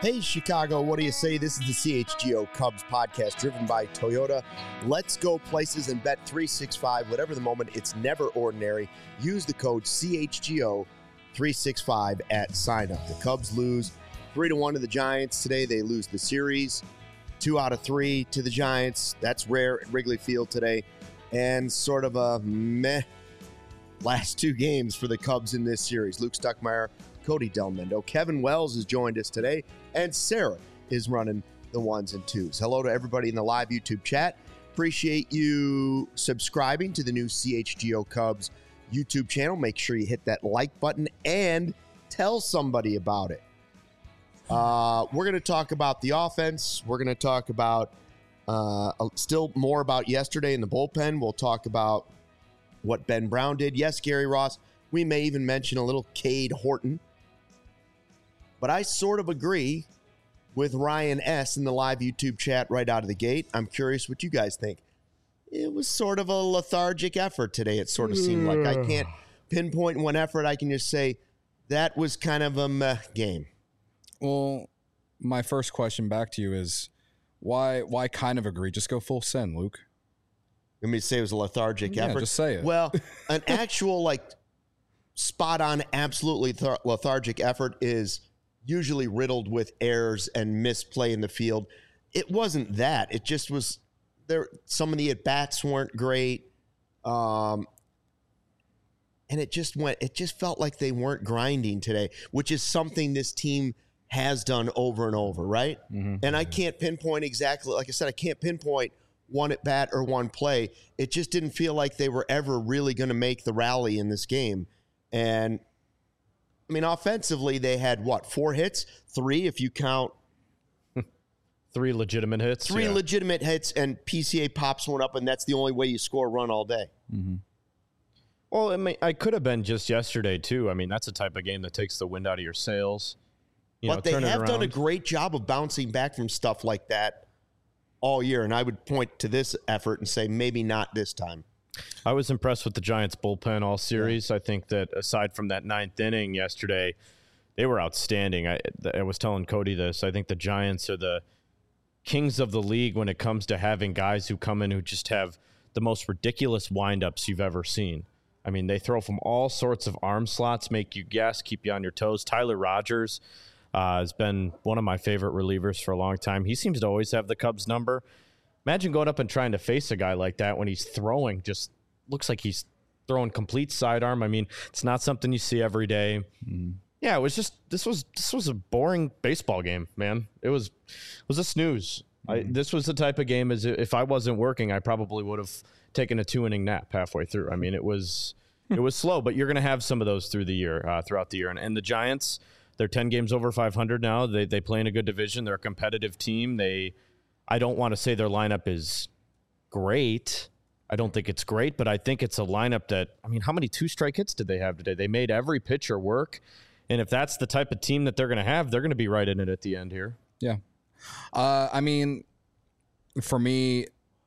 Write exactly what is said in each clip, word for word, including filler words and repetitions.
Hey, Chicago, what do you say? This is the C H G O Cubs podcast driven by Toyota. Let's go places and bet three sixty-five. Whatever the moment, it's never ordinary. Use the code C H G O three sixty-five at sign up. The Cubs lose three to one to the Giants today. They lose the series two out of three to the Giants. That's rare at Wrigley Field today. And sort of a meh last two games for the Cubs in this series. Luke Stuckmeyer, Cody Delmendo. Kevin Wells has joined us today, and Sarah is running the ones and twos. Hello to everybody in the live YouTube chat. Appreciate you subscribing to the new C H G O Cubs YouTube channel. Make sure you hit that like button and tell somebody about it. Uh, we're going to talk about the offense. We're going to talk about uh, still more about yesterday in the bullpen. We'll talk about what Ben Brown did. Yes, Gary Ross. We may even mention a little Cade Horton. But I sort of agree with Ryan S. in the live YouTube chat right out of the gate. I'm curious what you guys think. It was sort of a lethargic effort today, it sort of seemed like. I can't pinpoint one effort. I can just say that was kind of a meh game. Well, my first question back to you is, why why kind of agree? Just go full send, Luke. Let me say it was a lethargic yeah, effort. Just say it. Well, an actual, like, spot-on, absolutely th- lethargic effort is usually riddled with errors and misplay in the field. It wasn't that. It just was there. Some of the at-bats weren't great. Um, and it just went, it just felt like they weren't grinding today, which is something this team has done over and over, right? Mm-hmm. And I can't pinpoint exactly, like I said, I can't pinpoint one at-bat or one play. It just didn't feel like they were ever really going to make the rally in this game. And I mean, offensively, they had what, four hits? Three, if you count. Three legitimate hits. Three yeah. legitimate hits, and P C A pops one up, and that's the only way you score a run all day. Mm-hmm. Well, I mean, I could have been just yesterday, too. I mean, that's a type of game that takes the wind out of your sails. You but know, they have done a great job of bouncing back from stuff like that all year, and I would point to this effort and say maybe not this time. I was impressed with the Giants' bullpen all series. Yeah. I think that aside from that ninth inning yesterday, they were outstanding. I, I was telling Cody this. I think the Giants are the kings of the league when it comes to having guys who come in who just have the most ridiculous windups you've ever seen. I mean, they throw from all sorts of arm slots, make you guess, keep you on your toes. Tyler Rogers uh, has been one of my favorite relievers for a long time. He seems to always have the Cubs number. Imagine going up and trying to face a guy like that when he's throwing. Just looks like he's throwing complete sidearm. I mean, it's not something you see every day. Mm. Yeah, it was just this was this was a boring baseball game, man. It was it was a snooze. Mm. I, this was the type of game as if I wasn't working, I probably would have taken a two inning nap halfway through. I mean, it was it was slow, but you're going to have some of those through the year, uh, throughout the year. And, and the Giants, they're ten games over five hundred now. They they play in a good division. They're a competitive team. They I don't want to say their lineup is great. I don't think it's great, but I think it's a lineup that, I mean, how many two-strike hits did they have today? They made every pitcher work, and if that's the type of team that they're going to have, they're going to be right in it at the end here. Yeah. Uh, I mean, for me,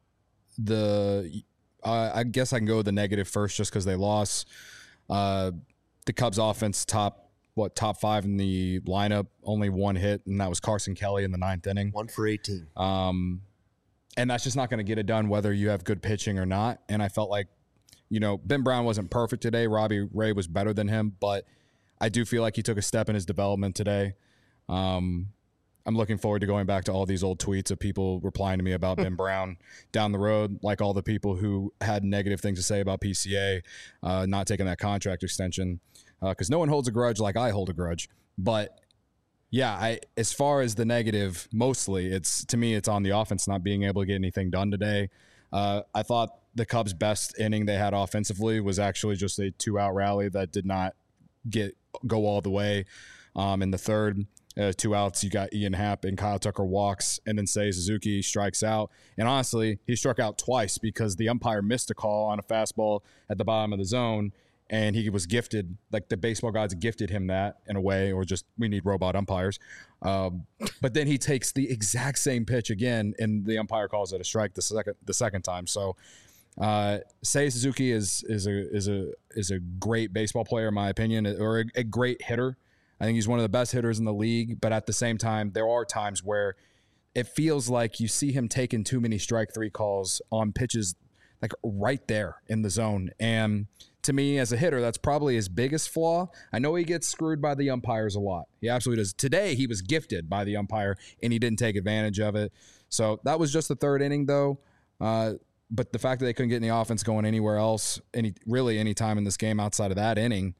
the uh, I guess I can go with the negative first just because they lost. Uh, the Cubs offense top what top five in the lineup, only one hit, and that was Carson Kelly in the ninth inning. One for eighteen. Um, and that's just not going to get it done whether you have good pitching or not. And I felt like, you know, Ben Brown wasn't perfect today. Robbie Ray was better than him, but I do feel like he took a step in his development today. Um, I'm looking forward to going back to all these old tweets of people replying to me about Ben Brown down the road, like all the people who had negative things to say about P C A uh, not taking that contract extension. Because uh, no one holds a grudge like I hold a grudge. But, yeah, I as far as the negative, mostly, it's to me, it's on the offense not being able to get anything done today. Uh, I thought the Cubs' best inning they had offensively was actually just a two-out rally that did not get go all the way. Um, in the third, uh, two outs, you got Ian Happ and Kyle Tucker walks, and then Seiya Suzuki strikes out. And honestly, he struck out twice because the umpire missed a call on a fastball at the bottom of the zone. And he was gifted, like the baseball gods gifted him that in a way, or just we need robot umpires. Um, but then he takes the exact same pitch again, and the umpire calls it a strike the second the second time. So uh, Seiya Suzuki is is a is a is a great baseball player in my opinion, or a, a great hitter. I think he's one of the best hitters in the league, but at the same time, there are times where it feels like you see him taking too many strike three calls on pitches like right there in the zone. And to me, as a hitter, that's probably his biggest flaw. I know he gets screwed by the umpires a lot. He absolutely does. Today, he was gifted by the umpire, and he didn't take advantage of it. So that was just the third inning, though. Uh, but the fact that they couldn't get any offense going anywhere else, any really any time in this game outside of that inning,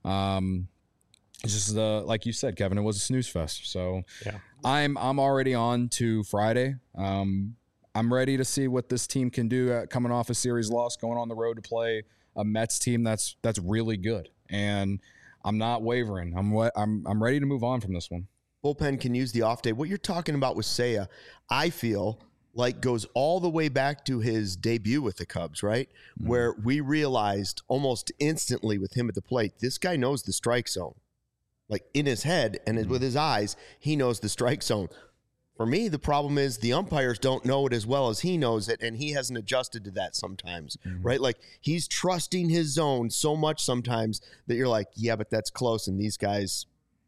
um, it's just uh, like you said, Kevin, it was a snooze fest. So yeah. I'm I'm already on to Friday. Um, I'm ready to see what this team can do at coming off a series loss, going on the road to play a Mets team that's that's really good, and I'm not wavering. I'm I'm I'm ready to move on from this one. Bullpen can use the off day. What you're talking about with Seiya, I feel like goes all the way back to his debut with the Cubs, right? Mm-hmm. Where we realized almost instantly with him at the plate, this guy knows the strike zone. Like in his head and mm-hmm. with his eyes, he knows the strike zone. For me, the problem is the umpires don't know it as well as he knows it, and he hasn't adjusted to that sometimes, mm-hmm. right? Like he's trusting his zone so much sometimes that you're like, yeah, but that's close, and these guys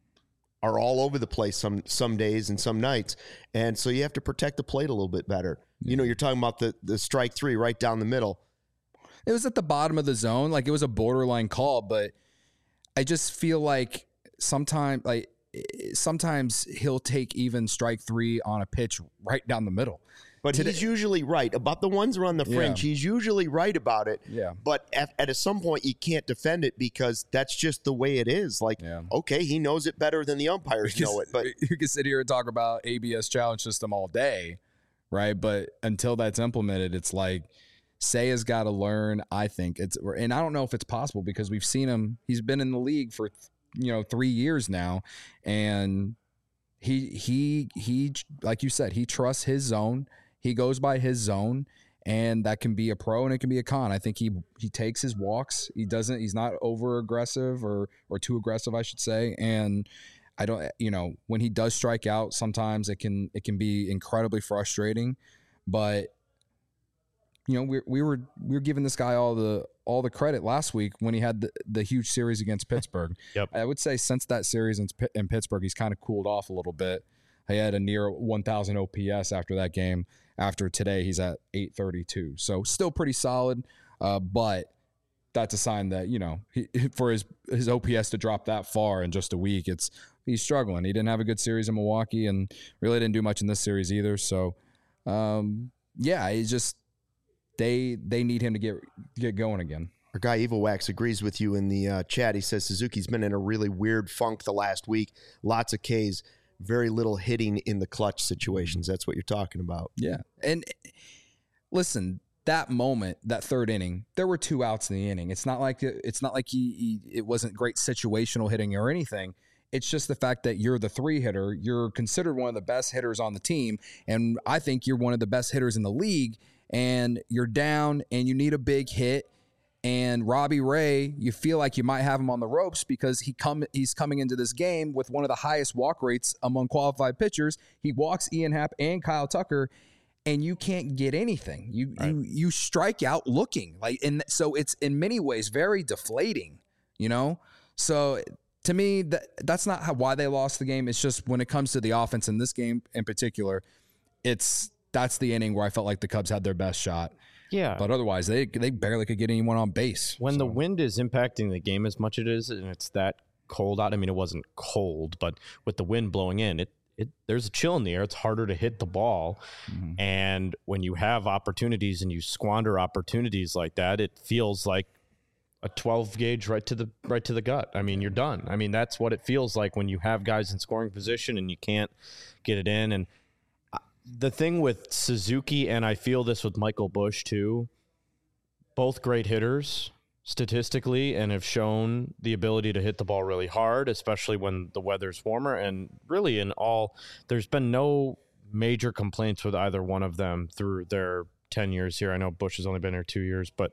are all over the place some some days and some nights, and so you have to protect the plate a little bit better. Mm-hmm. You know, you're talking about the, the strike three right down the middle. It was at the bottom of the zone. Like it was a borderline call, but I just feel like sometimes like sometimes he'll take even strike three on a pitch right down the middle. But Today, he's usually right about the ones around the fringe. Yeah. He's usually right about it. Yeah. But at, at some point, you can't defend it because that's just the way it is. Like, yeah. okay, he knows it better than the umpires because know it. But you can sit here and talk about A B S challenge system all day, right? But until that's implemented, it's like Seiya's got to learn. I think it's, and I don't know if it's possible because we've seen him. He's been in the league for you know three years now, and he he he like you said, he trusts his zone. He goes by his zone, and that can be a pro and it can be a con. I think he he takes his walks. He doesn't. He's not over aggressive or or too aggressive, I should say. And I don't. You know, when he does strike out, sometimes it can it can be incredibly frustrating. But you know, we we were we were giving this guy all the all the credit last week when he had the, the huge series against Pittsburgh. Yep. I would say since that series in, in Pittsburgh, he's kind of cooled off a little bit. He had a near one thousand O P S after that game. After today, he's at eight thirty-two. So still pretty solid, uh, but that's a sign that, you know, he, for his, his O P S to drop that far in just a week, it's he's struggling. He didn't have a good series in Milwaukee and really didn't do much in this series either. So, um, yeah, he's just they they need him to get get going again. Our guy Evil Wax agrees with you in the uh, chat. He says Suzuki's been in a really weird funk the last week. Lots of Ks. Very little hitting in the clutch situations. That's what you're talking about. Yeah. And listen, that moment, that third inning, there were two outs in the inning. It's not like it's not like he, he it wasn't great situational hitting or anything. It's just the fact that you're the three hitter. You're considered one of the best hitters on the team. And I think you're one of the best hitters in the league. And you're down and you need a big hit. And Robbie Ray, you feel like you might have him on the ropes because he come he's coming into this game with one of the highest walk rates among qualified pitchers. He walks Ian Happ and Kyle Tucker, and you can't get anything. You right. you you strike out looking like, and so it's in many ways very deflating. You know, so to me that that's not how why they lost the game. It's just when it comes to the offense in this game in particular, it's that's the inning where I felt like the Cubs had their best shot. Yeah. But otherwise, they they barely could get anyone on base. When so. the wind is impacting the game as much as it is, and it's that cold out, I mean, it wasn't cold, but with the wind blowing in, it, it there's a chill in the air. It's harder to hit the ball. Mm-hmm. And when you have opportunities and you squander opportunities like that, it feels like a twelve gauge right to the right to the gut. I mean, you're done. I mean, that's what it feels like when you have guys in scoring position and you can't get it in. And the thing with Suzuki, and I feel this with Michael Busch too, both great hitters statistically and have shown the ability to hit the ball really hard, especially when the weather's warmer. And really in all, there's been no major complaints with either one of them through their ten years here. I know Busch has only been here two years, but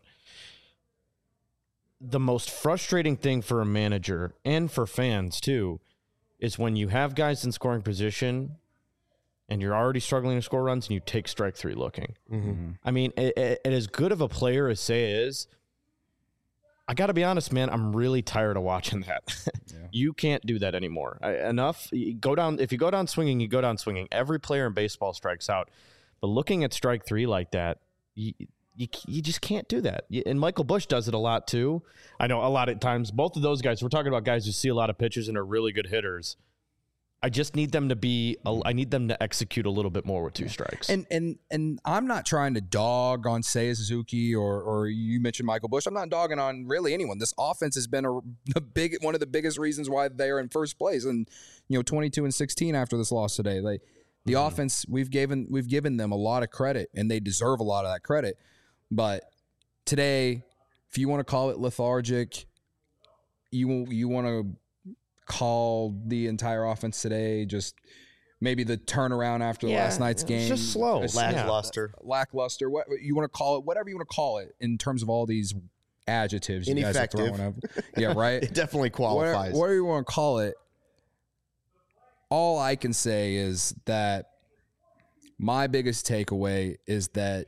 the most frustrating thing for a manager and for fans too is when you have guys in scoring position and you're already struggling to score runs, and you take strike three looking. Mm-hmm. I mean, it, it, it, as good of a player as Seiya is, I got to be honest, man, I'm really tired of watching that. Yeah. You can't do that anymore. I, enough. You go down. If you go down swinging, you go down swinging. Every player in baseball strikes out. But looking at strike three like that, you, you, you just can't do that. And Michael Busch does it a lot too. I know a lot of times, both of those guys, we're talking about guys who see a lot of pitches and are really good hitters. I just need them to be, I need them to execute a little bit more with two strikes. And and and I'm not trying to dog on Seiya Suzuki or or you mentioned Michael Busch. I'm not dogging on really anyone. This offense has been a, a big one of the biggest reasons why they are in first place. And you know, twenty-two and sixteen after this loss today. Like the mm-hmm. offense, we've given we've given them a lot of credit, and they deserve a lot of that credit. But today, if you want to call it lethargic, you you want to call the entire offense today just maybe the turnaround after yeah, last night's game. Just slow. Lackluster. Yeah. Lackluster. What you want to call it, whatever you want to call it in terms of all these adjectives you guys are throwing up. Yeah, right? It definitely qualifies. Whatever, whatever you want to call it, all I can say is that my biggest takeaway is that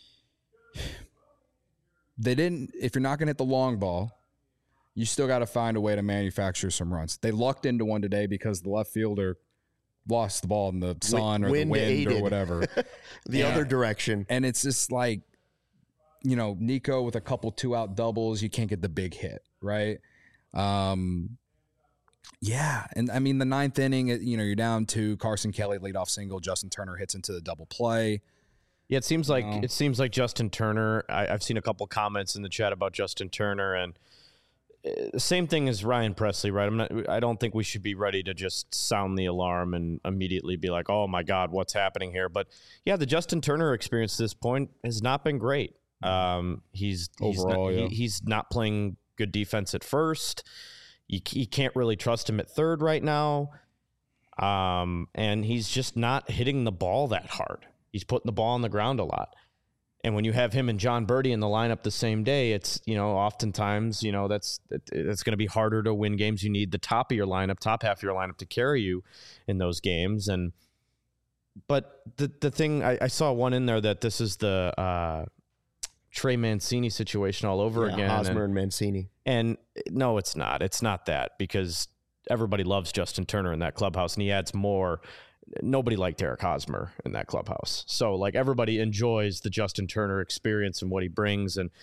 they didn't, if you're not going to hit the long ball, you still got to find a way to manufacture some runs. They lucked into one today because the left fielder lost the ball in the sun or wind the wind aided. Or whatever. the and, other direction. And it's just like, you know, Nico with a couple two-out doubles, you can't get the big hit, right? Um, yeah, and I mean, the ninth inning, you know, you're down to Carson Kelly, leadoff single, Justin Turner hits into the double play. Yeah, it seems like No. it seems like Justin Turner. I, I've seen a couple comments in the chat about Justin Turner, and the same thing as Ryan Presley, right? I'm not. I don't think we should be ready to just sound the alarm and immediately be like, "Oh my God, what's happening here?" But yeah, the Justin Turner experience to this point has not been great. Um, he's he's Overall, not, yeah. he, he's not playing good defense at first. You, you can't really trust him at third right now, um, and he's just not hitting the ball that hard. He's putting the ball on the ground a lot. And when you have him and John Birdie in the lineup the same day, it's, you know, oftentimes, you know, that's it, it's going to be harder to win games. You need the top of your lineup, top half of your lineup to carry you in those games. And but the the thing, I, I saw one in there that this is the uh, Trey Mancini situation all over yeah, again. Hosmer and, and Mancini. And no, it's not. It's not that, because everybody loves Justin Turner in that clubhouse, and he adds more. Nobody liked Eric Hosmer in that clubhouse. So, like, everybody enjoys the Justin Turner experience and what he brings. And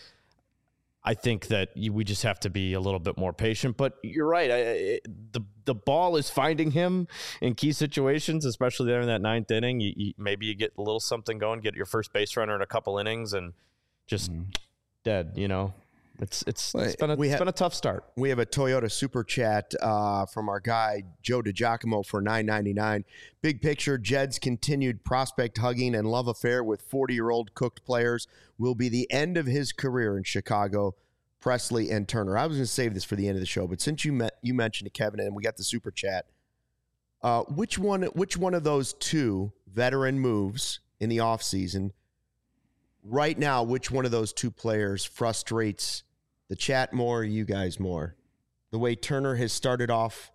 I think that you, we just have to be a little bit more patient. But you're right. I, it, the the ball is finding him in key situations, especially there in that ninth inning. You, you, maybe you get a little something going, get your first base runner in a couple innings, and just mm-hmm. dead, you know. It's it's, it's been a we it's ha- been a tough start. We have a Toyota super chat uh, from our guy Joe DiGiacomo for nine ninety-nine. Big picture: Jed's continued prospect hugging and love affair with forty-year-old cooked players will be the end of his career in Chicago. Presley and Turner. I was going to save this for the end of the show, but since you met you mentioned it, Kevin, and we got the super chat, uh, which one which one of those two veteran moves in the offseason right now, which one of those two players frustrates the chat more, or you guys more? The way Turner has started off,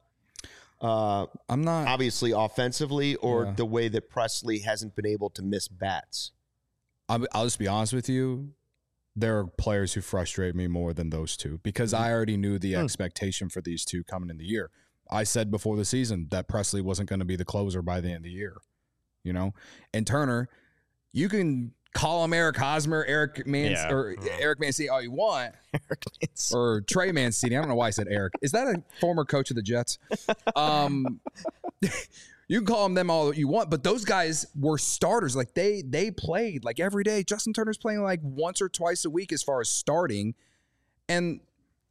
uh, I'm not obviously offensively, or Yeah. the way that Presley hasn't been able to miss bats? I'll, I'll just be honest with you. There are players who frustrate me more than those two, because I already knew the Hmm. expectation for these two coming in the year. I said before the season that Presley wasn't going to be the closer by the end of the year, you know? And Turner, you can call him Eric Hosmer, Eric Man, Yeah. or Eric Mancini all you want, Eric Mancini. or Trey Mancini. I don't know why I said Eric. Is that a former coach of the Jets? Um, you can call them them all you want, but those guys were starters. Like they they played like every day. Justin Turner's playing like once or twice a week as far as starting, and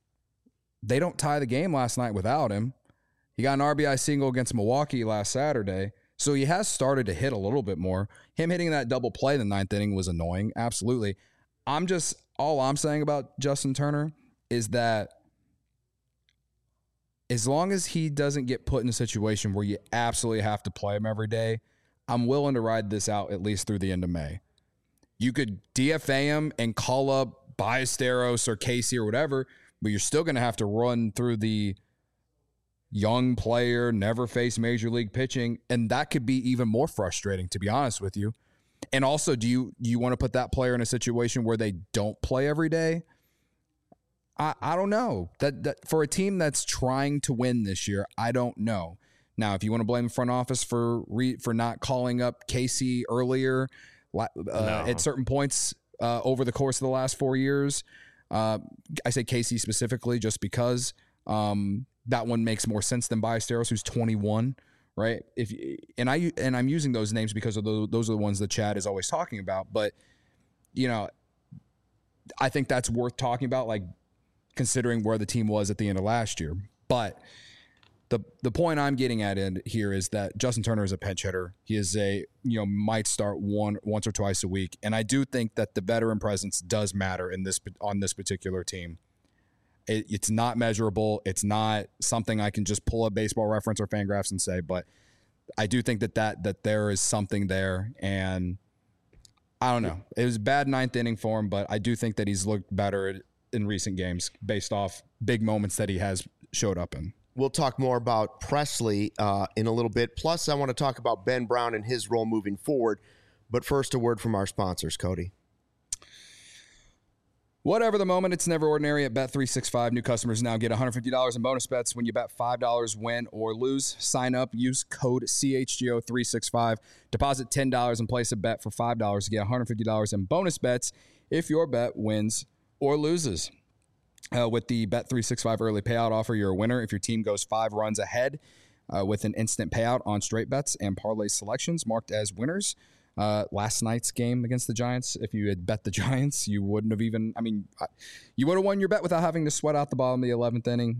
they don't tie the game last night without him. He got an R B I single against Milwaukee last Saturday. So he has started to hit a little bit more. Him hitting that double play in the ninth inning was annoying. Absolutely. I'm just, all I'm saying about Justin Turner is that as long as he doesn't get put in a situation where you absolutely have to play him every day, I'm willing to ride this out at least through the end of May. You could D F A him and call up Ballesteros or Casey or whatever, but you're still going to have to run through the young player, never faced major league pitching, and that could be even more frustrating, to be honest with you. And also, do you you want to put that player in a situation where they don't play every day? I, I don't know. That, that for a team that's trying to win this year, I don't know. Now, if you want to blame the front office for re, for not calling up Casey earlier uh, no. at certain points uh, over the course of the last four years, uh, I say Casey specifically just because um, that one makes more sense than Ballesteros, who's twenty-one, right? If and I and I'm using those names because of the, those are the ones that Chad is always talking about. But you know, I think that's worth talking about, like considering where the team was at the end of last year, but. The the point I'm getting at in here is that Justin Turner is a pinch hitter. He is a, you know, might start one once or twice a week. And I do think that the veteran presence does matter in this on this particular team. It, it's not measurable. It's not something I can just pull a Baseball Reference or Fangraphs and say, but I do think that, that that there is something there. And I don't know. It was a bad ninth inning for him, but I do think that he's looked better in recent games based off big moments that he has showed up in. We'll talk more about Pressly uh, in a little bit. Plus, I want to talk about Ben Brown and his role moving forward. But first, a word from our sponsors, Cody. Whatever the moment, it's never ordinary at Bet three sixty-five. New customers now get one hundred fifty dollars in bonus bets when you bet five dollars, win or lose. Sign up, use code C H G O three sixty-five. Deposit ten dollars and place a bet for five dollars to get one hundred fifty dollars in bonus bets if your bet wins or loses. Uh, with the Bet three sixty-five early payout offer, you're a winner if your team goes five runs ahead uh, with an instant payout on straight bets and parlay selections marked as winners. Uh, last night's game against the Giants, if you had bet the Giants, you wouldn't have even, I mean, you would have won your bet without having to sweat out the bottom of the eleventh inning.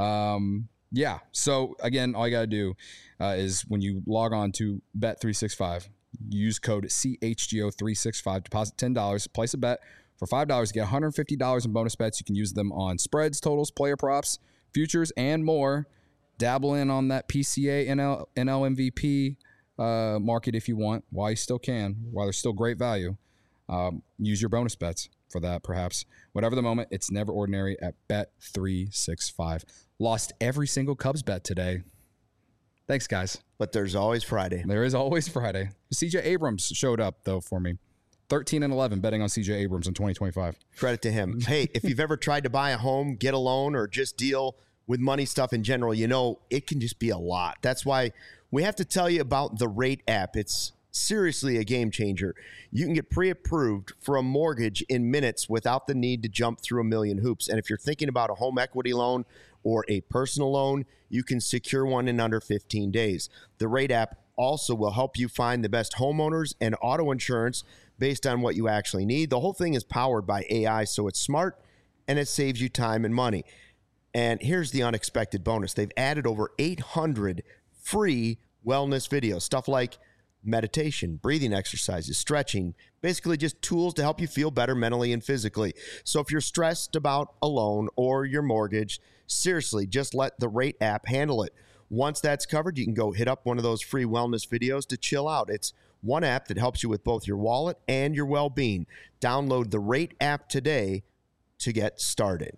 Um, yeah, so again, all you got to do uh, is when you log on to Bet three sixty-five, use code C H G O three sixty-five, deposit ten dollars, place a bet. For five dollars, you get one hundred fifty dollars in bonus bets. You can use them on spreads, totals, player props, futures, and more. Dabble in on that P C A N L, N L M V P uh, market if you want, while you still can, while there's still great value. Um, use your bonus bets for that, perhaps. Whatever the moment, it's never ordinary at Bet three sixty-five. Lost every single Cubs bet today. Thanks, guys. But there's always Friday. There is always Friday. C J Abrams showed up, though, for me. thirteen and eleven betting on C J Abrams in twenty twenty-five. Credit to him. Hey, if you've ever tried to buy a home, get a loan, or just deal with money stuff in general, you know it can just be a lot. That's why we have to tell you about the Rate app. It's seriously a game changer. You can get pre-approved for a mortgage in minutes without the need to jump through a million hoops. And if you're thinking about a home equity loan or a personal loan, you can secure one in under fifteen days. The Rate app also will help you find the best homeowners and auto insurance based on what you actually need. The whole thing is powered by A I, so it's smart and it saves you time and money. And here's the unexpected bonus. They've added over eight hundred free wellness videos, stuff like meditation, breathing exercises, stretching, basically just tools to help you feel better mentally and physically. So if you're stressed about a loan or your mortgage, seriously, just let the Rate app handle it. Once that's covered, you can go hit up one of those free wellness videos to chill out. It's one app that helps you with both your wallet and your well-being. Download the Rate app today to get started.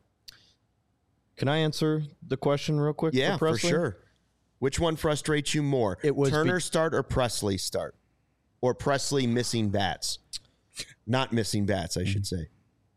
Can I answer the question real quick? Yeah, for, for sure. Which one frustrates you more? It was Turner be- start or Pressly start? Or Pressly missing bats? Not missing bats, I should say.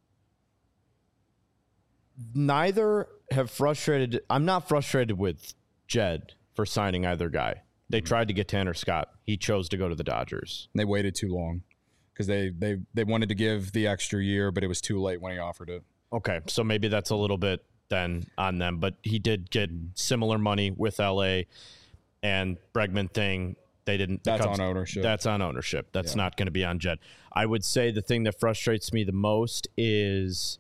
Neither have frustrated. I'm not frustrated with Jed for signing either guy. They tried to get Tanner Scott. He chose to go to the Dodgers. They waited too long because they, they, they wanted to give the extra year, but it was too late when he offered it. Okay, so maybe that's a little bit then on them, but he did get similar money with L A, and Bregman thing, they didn't. That's Cubs, on ownership. That's on ownership. That's yeah. not going to be on Jed. I would say the thing that frustrates me the most is,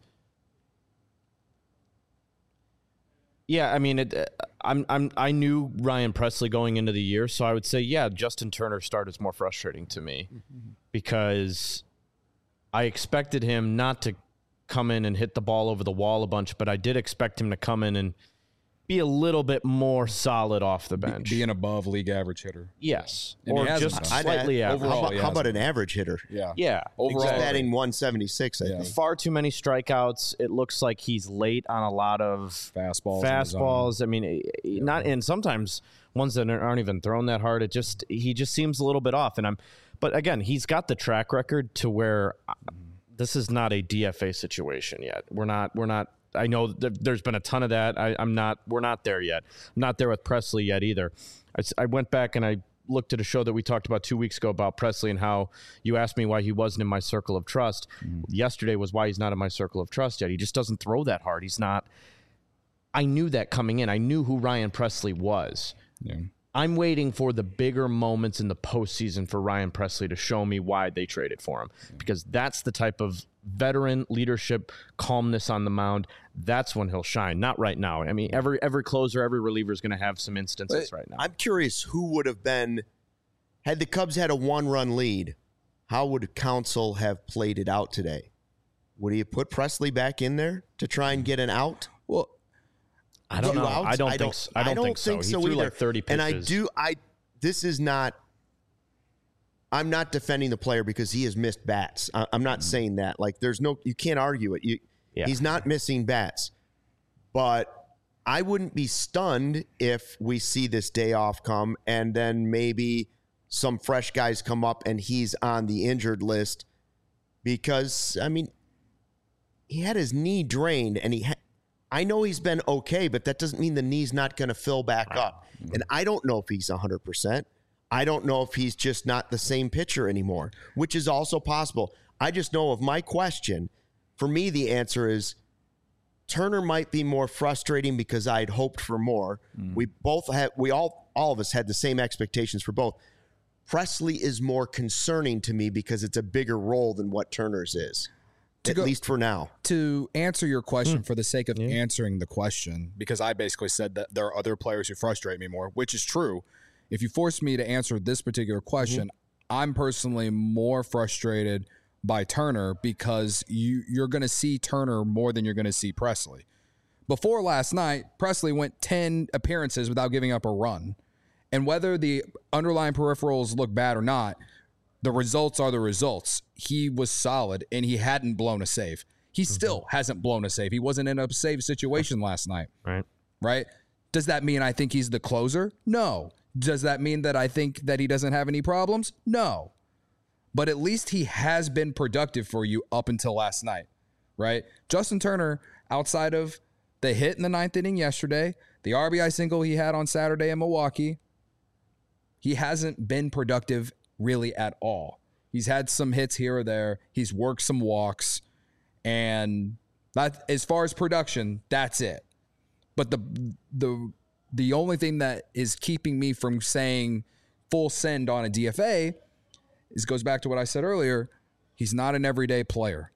yeah, I mean, it, I'm, I'm, I knew Ryan Pressly going into the year, so I would say, yeah, Justin Turner start is more frustrating to me mm-hmm. because I expected him not to come in and hit the ball over the wall a bunch, but I did expect him to come in and be a little bit more solid off the bench. Be, be an above league average hitter. Yes. And or just been. slightly add, average. How about, Overall, how about an average hitter? Yeah. Yeah. Overall, Exactly. Batting one seventy-six, I Yeah. think. Far too many strikeouts. It looks like he's late on a lot of fastballs. Fastballs. I mean, yeah. not and sometimes ones that aren't even thrown that hard. It just he just seems a little bit off. And I'm, but again, he's got the track record to where this is not a D F A situation yet. We're not. We're not. I know th- there's been a ton of that. I, I'm not. We're not there yet. I'm not there with Presley yet either. I, I went back and I looked at a show that we talked about two weeks ago about Presley and how you asked me why he wasn't in my circle of trust. Mm. Yesterday was why he's not in my circle of trust yet. He just doesn't throw that hard. He's not. I knew that coming in. I knew who Ryan Presley was. Yeah. I'm waiting for the bigger moments in the postseason for Ryan Presley to show me why they traded for him, because that's the type of veteran leadership, calmness on the mound. That's when he'll shine. Not right now. I mean, every every closer, every reliever is going to have some instances but right now. I'm curious who would have been, had the Cubs had a one-run lead, how would Counsell have played it out today? Would he have put Presley back in there to try and get an out? Well, I don't know. Outs? I don't, I don't think so. I don't, I don't think, think so. so. He threw either. like thirty pitches. And I do. I. This is not. I'm not defending the player because he has missed bats. I, I'm not mm-hmm. saying that. Like, there's no. You can't argue it. You, yeah. He's not missing bats, but I wouldn't be stunned if we see this day off come and then maybe some fresh guys come up and he's on the injured list, because I mean, he had his knee drained and he. Ha- I know he's been okay, but that doesn't mean the knee's not going to fill back right. up. Mm-hmm. And I don't know if he's one hundred percent. I don't know if he's just not the same pitcher anymore, which is also possible. I just know of my question. For me, the answer is Turner might be more frustrating because I'd hoped for more. Mm-hmm. We both had, we all, all of us had the same expectations for both. Presley is more concerning to me because it's a bigger role than what Turner's is. To At go, least for now. To answer your question, mm. for the sake of yeah. answering the question, because I basically said that there are other players who frustrate me more, which is true. If you force me to answer this particular question, mm-hmm. I'm personally more frustrated by Turner because you, you're going to see Turner more than you're going to see Presley. Before last night, Presley went ten appearances without giving up a run. And whether the underlying peripherals look bad or not, the results are the results. He was solid, and he hadn't blown a save. He mm-hmm. still hasn't blown a save. He wasn't in a save situation last night. Right. Right? Does that mean I think he's the closer? No. Does that mean that I think that he doesn't have any problems? No. But at least he has been productive for you up until last night, right? Justin Turner, outside of the hit in the ninth inning yesterday, the R B I single he had on Saturday in Milwaukee, he hasn't been productive really at all. He's had some hits here or there. He's worked some walks. And that, as far as production, that's it. But the the the only thing that is keeping me from saying full send on a D F A is goes back to what I said earlier. He's not an everyday player.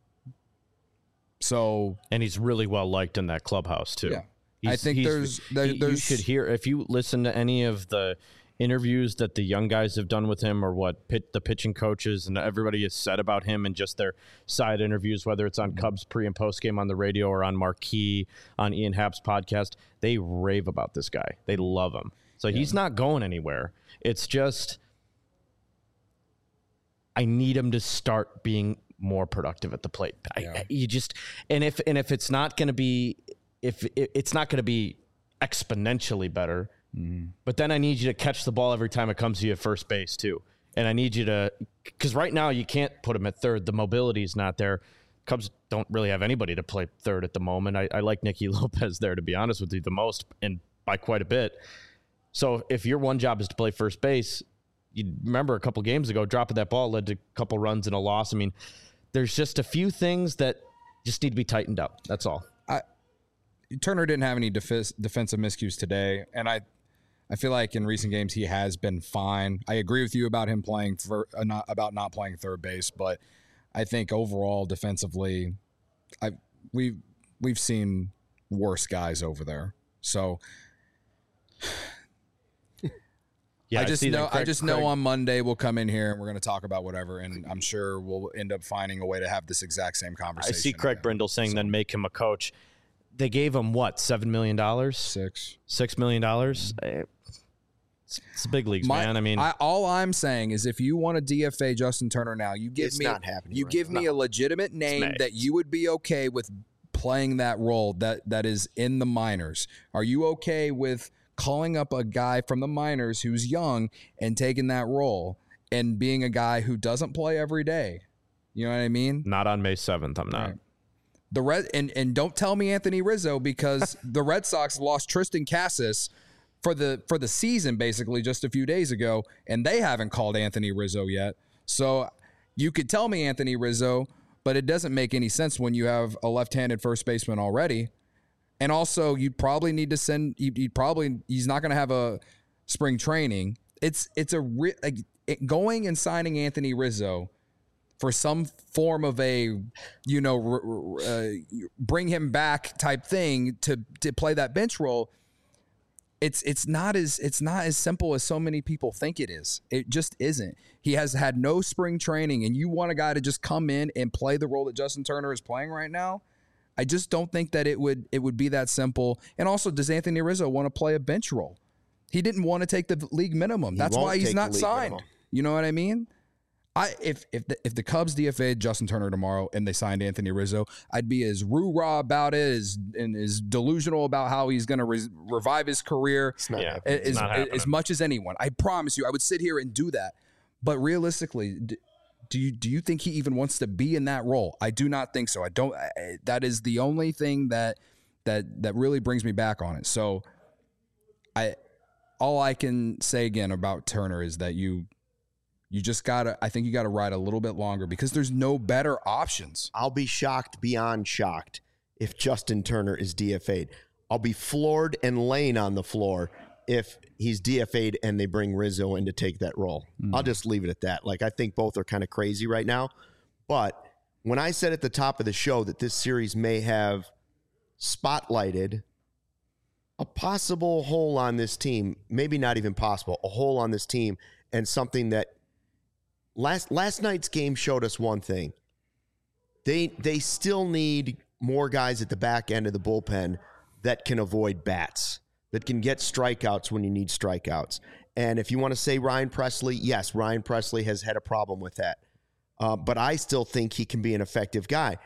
So, and he's really well liked in that clubhouse too. Yeah. He's, I think there's, there, he, there's you should hear, if you listen to any of the interviews that the young guys have done with him, or what pit, the pitching coaches and everybody has said about him, and just their side interviews, whether it's on mm-hmm. Cubs pre and post game on the radio or on Marquee on Ian Happ's podcast, they rave about this guy. They love him. So yeah. he's not going anywhere. It's just, I need him to start being more productive at the plate. Yeah. I, you just, and if, and if it's not going to be, if it, it's not going to be exponentially better, mm. but then I need you to catch the ball every time it comes to you at first base too. And I need you to, because right now you can't put him at third. The mobility is not there. Cubs don't really have anybody to play third at the moment. I, I like Nicky Lopez there, to be honest with you, the most, and by quite a bit. So if your one job is to play first base, you remember a couple games ago, dropping that ball led to a couple runs and a loss. I mean, there's just a few things that just need to be tightened up. That's all. I, Turner didn't have any def- defensive miscues today, and I I feel like in recent games he has been fine. I agree with you about him playing for uh, not, about not playing third base, but I think overall defensively, I we we've, we've seen worse guys over there. So yeah, I just I know Craig, I just Craig. know on Monday we'll come in here and we're going to talk about whatever, and I'm sure we'll end up finding a way to have this exact same conversation. I see Craig again. Brindle saying so. Then make him a coach. They gave him what, seven million dollars? Six. Six million dollars? Mm-hmm. It's, it's the big leagues, My, man. I mean, I, all I'm saying is if you want to D F A Justin Turner now, you give it's me not happening you right give now. me a legitimate name that you would be okay with playing that role that that is in the minors. Are you okay with calling up a guy from the minors who's young and taking that role and being a guy who doesn't play every day? You know what I mean? Not on May seventh, I'm not. Right. The Red and, and don't tell me Anthony Rizzo, because the Red Sox lost Tristan Casas for the for the season basically just a few days ago, and they haven't called Anthony Rizzo yet. So you could tell me Anthony Rizzo, but it doesn't make any sense when you have a left-handed first baseman already. And also, you'd probably need to send. You'd, you'd probably he's not going to have a spring training. It's it's a like, it, going and signing Anthony Rizzo for some form of a, you know, uh, bring him back type thing to to play that bench role. It's it's not as it's not as simple as so many people think it is. It just isn't. He has had no spring training, and you want a guy to just come in and play the role that Justin Turner is playing right now? I just don't think that it would it would be that simple. And also, does Anthony Rizzo want to play a bench role? He didn't want to take the league minimum. He That's why he's take not the league signed. minimum. You know what I mean? I if if the, if the Cubs D F A'd Justin Turner tomorrow and they signed Anthony Rizzo, I'd be as rah-rah about it, as and as delusional about how he's going to re- revive his career It's not Yeah. happening. as, not as, happening. as much as anyone. I promise you, I would sit here and do that. But realistically, d- do you do you think he even wants to be in that role? I do not think so. I don't. I, that is the only thing that that that really brings me back on it. So, I all I can say again about Turner is that you you just gotta. I think you gotta ride a little bit longer, because there's no better options. I'll be shocked beyond shocked if Justin Turner is D F A'd. I'll be floored and laying on the floor if he's D F A'd and they bring Rizzo in to take that role. Mm. I'll just leave it at that. Like, I think both are kind of crazy right now. But when I said at the top of the show that this series may have spotlighted a possible hole on this team, maybe not even possible, a hole on this team, and something that last last night's game showed us one thing. They they still need more guys at the back end of the bullpen that can avoid bats, that can get strikeouts when you need strikeouts. And if you want to say Ryan Presley, yes, Ryan Presley has had a problem with that. Uh, but I still think he can be an effective guy.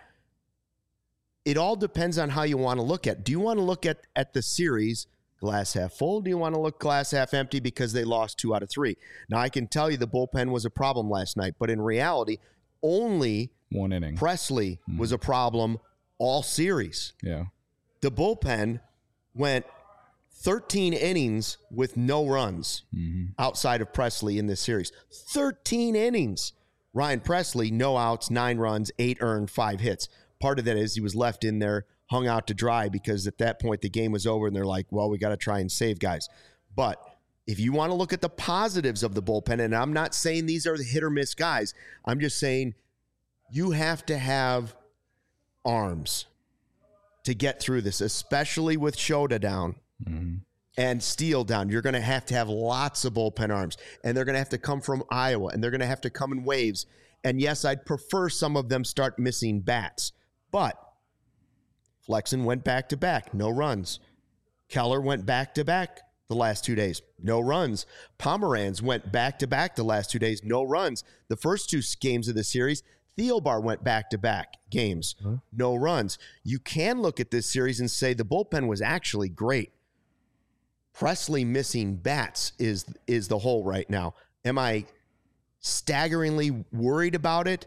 It all depends on how you want to look at. Do you want to look at, at the series glass half full? Do you want to look glass half empty because they lost two out of three? Now, I can tell you the bullpen was a problem last night, but in reality, only One inning. Presley Mm. was a problem all series. Yeah. The bullpen went thirteen innings with no runs Mm-hmm. outside of Presley in this series. thirteen innings. Ryan Presley, no outs, nine runs, eight earned, five hits. Part of that is he was left in there, hung out to dry, because at that point the game was over and they're like, well, we got to try and save guys. But if you want to look at the positives of the bullpen, and I'm not saying these are the hit or miss guys, I'm just saying you have to have arms to get through this, especially with Shota down. Mm-hmm. And Steele down. You're going to have to have lots of bullpen arms, and they're going to have to come from Iowa, and they're going to have to come in waves. And yes, I'd prefer some of them start missing bats, but Flexen went back to back, no runs. Keller went back to back the last two days, no runs. Pomeranz went back to back the last two days, no runs. The first two games of the series, Thielbar went back to back games, huh? no runs. You can look at this series and say the bullpen was actually great. Presley missing bats is is the hole right now. Am I staggeringly worried about it?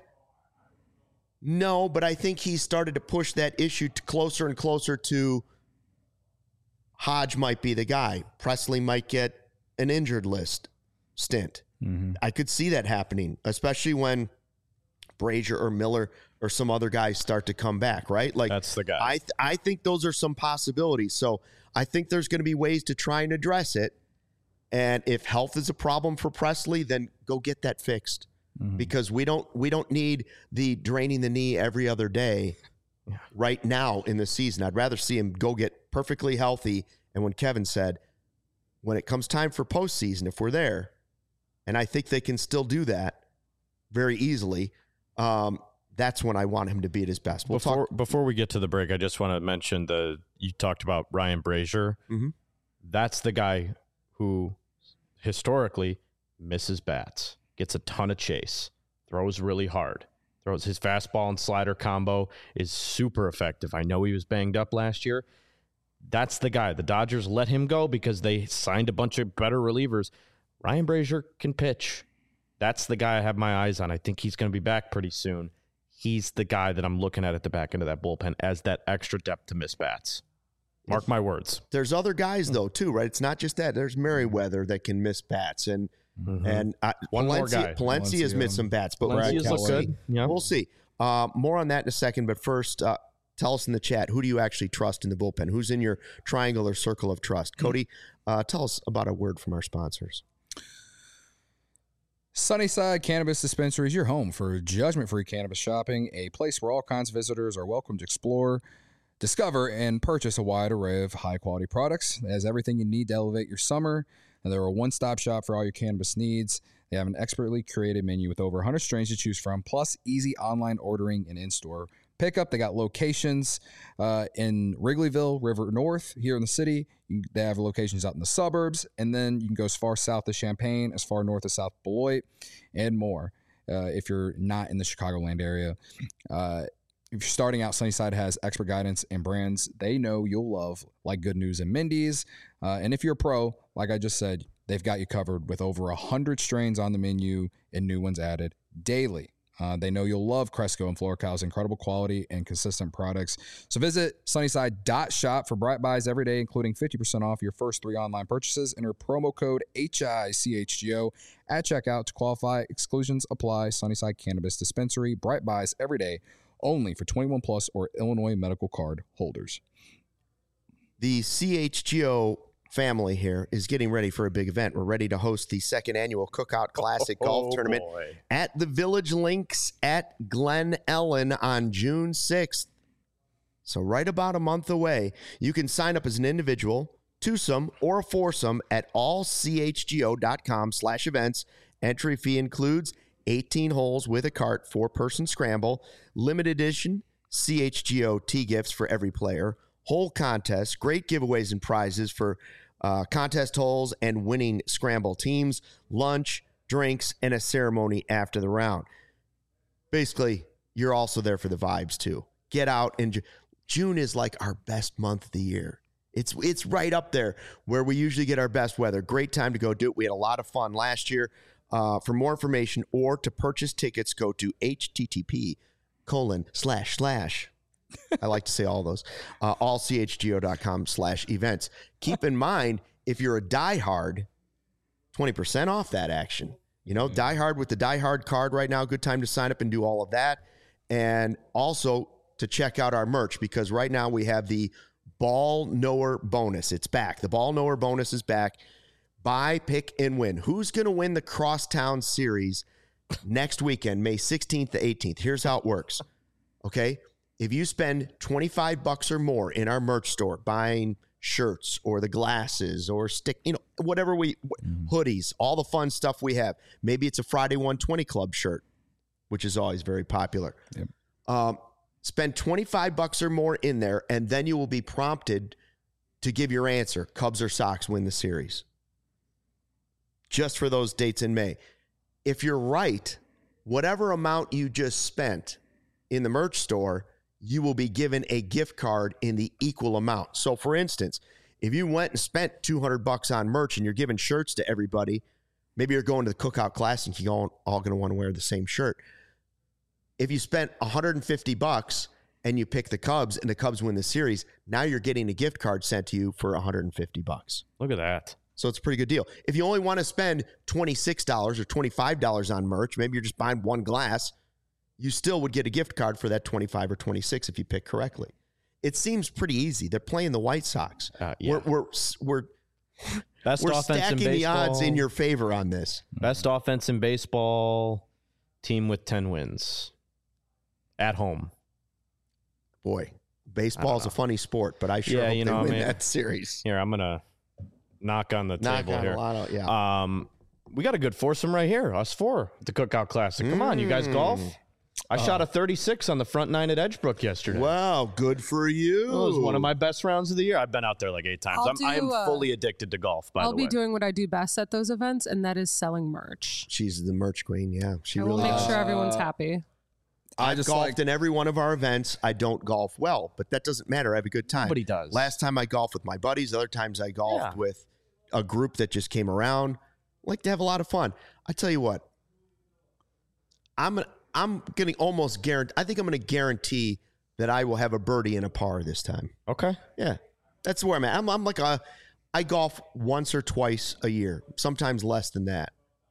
No, but I think he started to push that issue to closer and closer to Hodge might be the guy. Presley might get an injured list stint. Mm-hmm. I could see that happening, especially when Brazier or Miller or some other guys start to come back, right? Like that's the guy. I th- I think those are some possibilities. So I think there's going to be ways to try and address it. And if health is a problem for Presley, then go get that fixed. Mm-hmm. Because we don't we don't need the draining the knee every other day right now in the season. I'd rather see him go get perfectly healthy. And when Kevin said, when it comes time for postseason, if we're there, and I think they can still do that very easily, um, that's when I want him to be at his best. We'll before talk- before we get to the break, I just want to mention the you talked about Ryan Brazier. Mm-hmm. That's the guy who historically misses bats, gets a ton of chase, throws really hard, throws his fastball and slider combo is super effective. I know he was banged up last year. That's the guy. The Dodgers let him go because they signed a bunch of better relievers. Ryan Brazier can pitch. That's the guy I have my eyes on. I think he's going to be back pretty soon. he's the guy that I'm looking at at the back end of that bullpen as that extra depth to miss bats. Mark my words. There's other guys, though, too, right? It's not just that. There's Merriweather that can miss bats. And mm-hmm. and uh, One Palencia, more guy. Palencia has missed some bats. But Palencia's we'll look good. Yeah. We'll see. Uh, more on that in a second. But first, uh, tell us in the chat, who do you actually trust in the bullpen? Who's in your triangle or circle of trust? Cody, uh, tell us about a word from our sponsors. Sunnyside Cannabis Dispensary is your home for judgment-free cannabis shopping, a place where all kinds of visitors are welcome to explore, discover, and purchase a wide array of high-quality products. It has everything you need to elevate your summer, and they're a one-stop shop for all your cannabis needs. They have an expertly curated menu with over one hundred strains to choose from, plus easy online ordering and in-store pickup. They got locations uh, in Wrigleyville, River North, here in the city. You, they have locations out in the suburbs, and then you can go as far south as Champaign, as far north as South Beloit, and more uh, if you're not in the Chicagoland area. Uh, if you're starting out, Sunnyside has expert guidance and brands they know you'll love, like Good News and Mindy's. Uh, and if you're a pro, like I just said, they've got you covered with over one hundred strains on the menu and new ones added daily. Uh, they know you'll love Cresco and Florical's incredible quality and consistent products. So visit sunnyside dot shop for Bright Buys every day, including fifty percent off your first three online purchases. Enter promo code H I C H G O at checkout to qualify. Exclusions apply. Sunnyside Cannabis Dispensary. Bright Buys every day, only for twenty-one plus or Illinois medical card holders. The C H G O family here is getting ready for a big event. We're ready to host the second annual Cookout Classic oh, Golf Tournament boy. at the Village Links at Glen Ellen on June sixth. So right about a month away. You can sign up as an individual, twosome, or a foursome at allchgo.com slash events. Entry fee includes eighteen holes with a cart, four-person scramble, limited edition C H G O tee gifts for every player, hole contests, great giveaways and prizes for Uh, contest holes and winning scramble teams, lunch, drinks, and a ceremony after the round. Basically, you're also there for the vibes too. Get out, and June is like our best month of the year. It's it's right up there where we usually get our best weather. Great time to go do it. We had a lot of fun last year. Uh, for more information or to purchase tickets, go to http colon slash slash. I like to say all those. Uh, allchgo.com slash events. Keep in mind, if you're a diehard, twenty percent off that action. You know, diehard with the diehard card right now. Good time to sign up and do all of that. And also to check out our merch, because right now we have the Ball Knower bonus. It's back. The Ball Knower bonus is back. Buy, pick, and win. Who's going to win the Crosstown Series next weekend, May sixteenth to eighteenth? Here's how it works. Okay? If you spend twenty-five bucks or more in our merch store buying shirts or the glasses or stick, you know, whatever we, mm. hoodies, all the fun stuff we have. Maybe it's a Friday one twenty Club shirt, which is always very popular. Yep. Um, spend twenty-five bucks or more in there, and then you will be prompted to give your answer. Cubs or Sox win the series. Just for those dates in May. If you're right, whatever amount you just spent in the merch store, you will be given a gift card in the equal amount. So, for instance, if you went and spent two hundred bucks on merch and you're giving shirts to everybody, maybe you're going to the Cookout Classic, you're all, all going to want to wear the same shirt. If you spent one hundred fifty bucks and you pick the Cubs and the Cubs win the series, now you're getting a gift card sent to you for one hundred fifty bucks. Look at that. So it's a pretty good deal. If you only want to spend twenty-six dollars or twenty-five dollars on merch, maybe you're just buying one glass, you still would get a gift card for that twenty-five or twenty-six if you pick correctly. It seems pretty easy. They're playing the White Sox. Uh, yeah. We're we're we're, Best we're offense stacking in the odds in your favor on this. Best offense in baseball, team with ten wins at home. Boy, baseball is a funny sport, but I sure yeah, hope you know, they win I mean, that series. Here, I'm gonna knock on the knock table on here. A lot of, yeah. Um, we got a good foursome right here. Us four, the Cookout Classic. Come mm. on, you guys golf. I uh, shot a thirty-six on the front nine at Edgebrook yesterday. Wow, good for you. It was one of my best rounds of the year. I've been out there like eight times. I'm, do, I am uh, fully addicted to golf, by I'll the way. I'll be doing what I do best at those events, and that is selling merch. She's the merch queen, yeah. She I really will make is. sure everyone's happy. I I just golfed like, in every one of our events. I don't golf well, but that doesn't matter. I have a good time. Nobody does. Last time I golfed with my buddies. Other times I golfed yeah. with a group that just came around. I like to have a lot of fun. I tell you what, I'm gonna, I'm going to almost guarantee. I think I'm going to guarantee that I will have a birdie and a par this time. Okay. Yeah, that's where I'm at. I'm, I'm like a. I golf once or twice a year, sometimes less than that.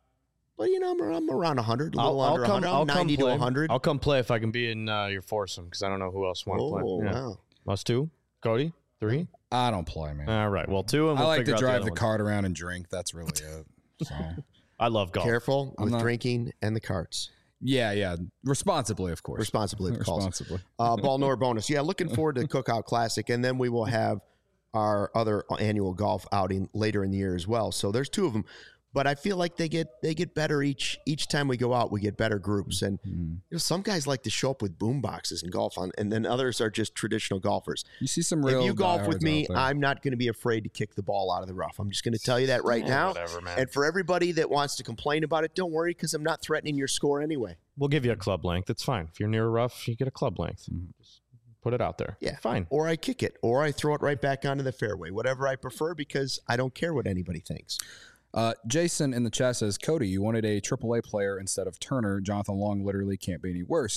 But you know, I'm, I'm around one hundred, a little I'll, under I'll come, one hundred, I'll ninety come to play. one hundred. I'll come play if I can be in uh, your foursome because I don't know who else want to Oh play. Yeah. wow! Us two, Cody, three. I don't play, man. All right. Well, two, and we'll I like figure to out drive the, the other cart around and drink. That's really it. So I love golf. Careful I'm with not- drinking and the carts. yeah, yeah, responsibly, of course. Responsibly, of course. Responsibly. Uh, ball nor bonus. Yeah, looking forward to Cookout Classic, and then we will have our other annual golf outing later in the year as well. So there's two of them, but I feel like they get they get better each each time we go out. We get better groups, and Mm-hmm. you know, some guys like to show up with boom boxes and golf on, and then others are just traditional golfers. You see some real. If you golf with diehards me, out there. I'm not going to be afraid to kick the ball out of the rough. I'm just going to tell you that right Yeah, now. whatever, man. And for everybody that wants to complain about it, don't worry, because I'm not threatening your score anyway. We'll give you a club length. It's fine. If you're near a rough, you get a club length. Just put it out there. Yeah, Fine. Or I kick it, or I throw it right back onto the fairway, whatever I prefer, because I don't care what anybody thinks. Uh, Jason in the chat says, Cody, you wanted a triple A player instead of Turner. Jonathan Long literally can't be any worse.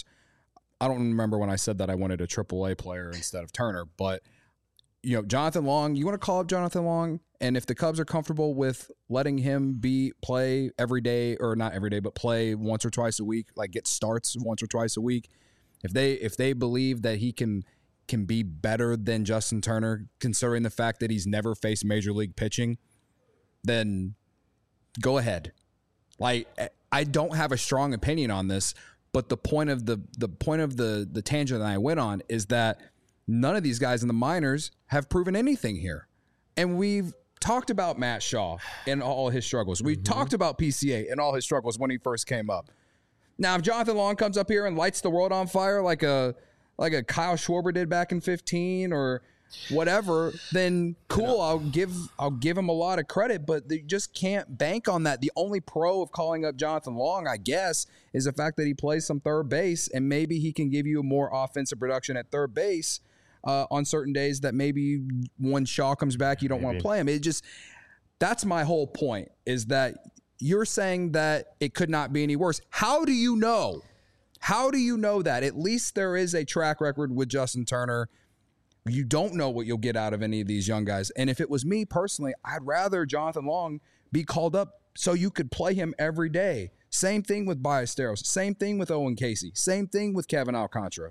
I don't remember when I said that I wanted a triple A player instead of Turner, but you know, Jonathan Long, you want to call up Jonathan Long, and if the Cubs are comfortable with letting him be play every day, or not every day, but play once or twice a week, like get starts once or twice a week, if they if they believe that he can can be better than Justin Turner, considering the fact that he's never faced major league pitching, then go ahead. Like, I don't have a strong opinion on this, but the point of the the point of the the tangent that I went on is that none of these guys in the minors have proven anything here. And we've talked about Matt Shaw and all his struggles. We mm-hmm. talked about P C A and all his struggles when he first came up. Now, if Jonathan Long comes up here and lights the world on fire like a like a Kyle Schwarber did back in fifteen or whatever, then cool. I'll give I'll give him a lot of credit, but they just can't bank on that. The only pro of calling up Jonathan Long, I guess, is the fact that he plays some third base, and maybe he can give you more offensive production at third base uh, on certain days that maybe when Shaw comes back, you don't want to play him. It just that's my whole point, is that you're saying that it could not be any worse. How do you know? How do you know that? At least there is a track record with Justin Turner. You don't know what you'll get out of any of these young guys. And if it was me personally, I'd rather Jonathan Long be called up so you could play him every day. Same thing with Ballesteros. Same thing with Owen Casey. Same thing with Kevin Alcantara.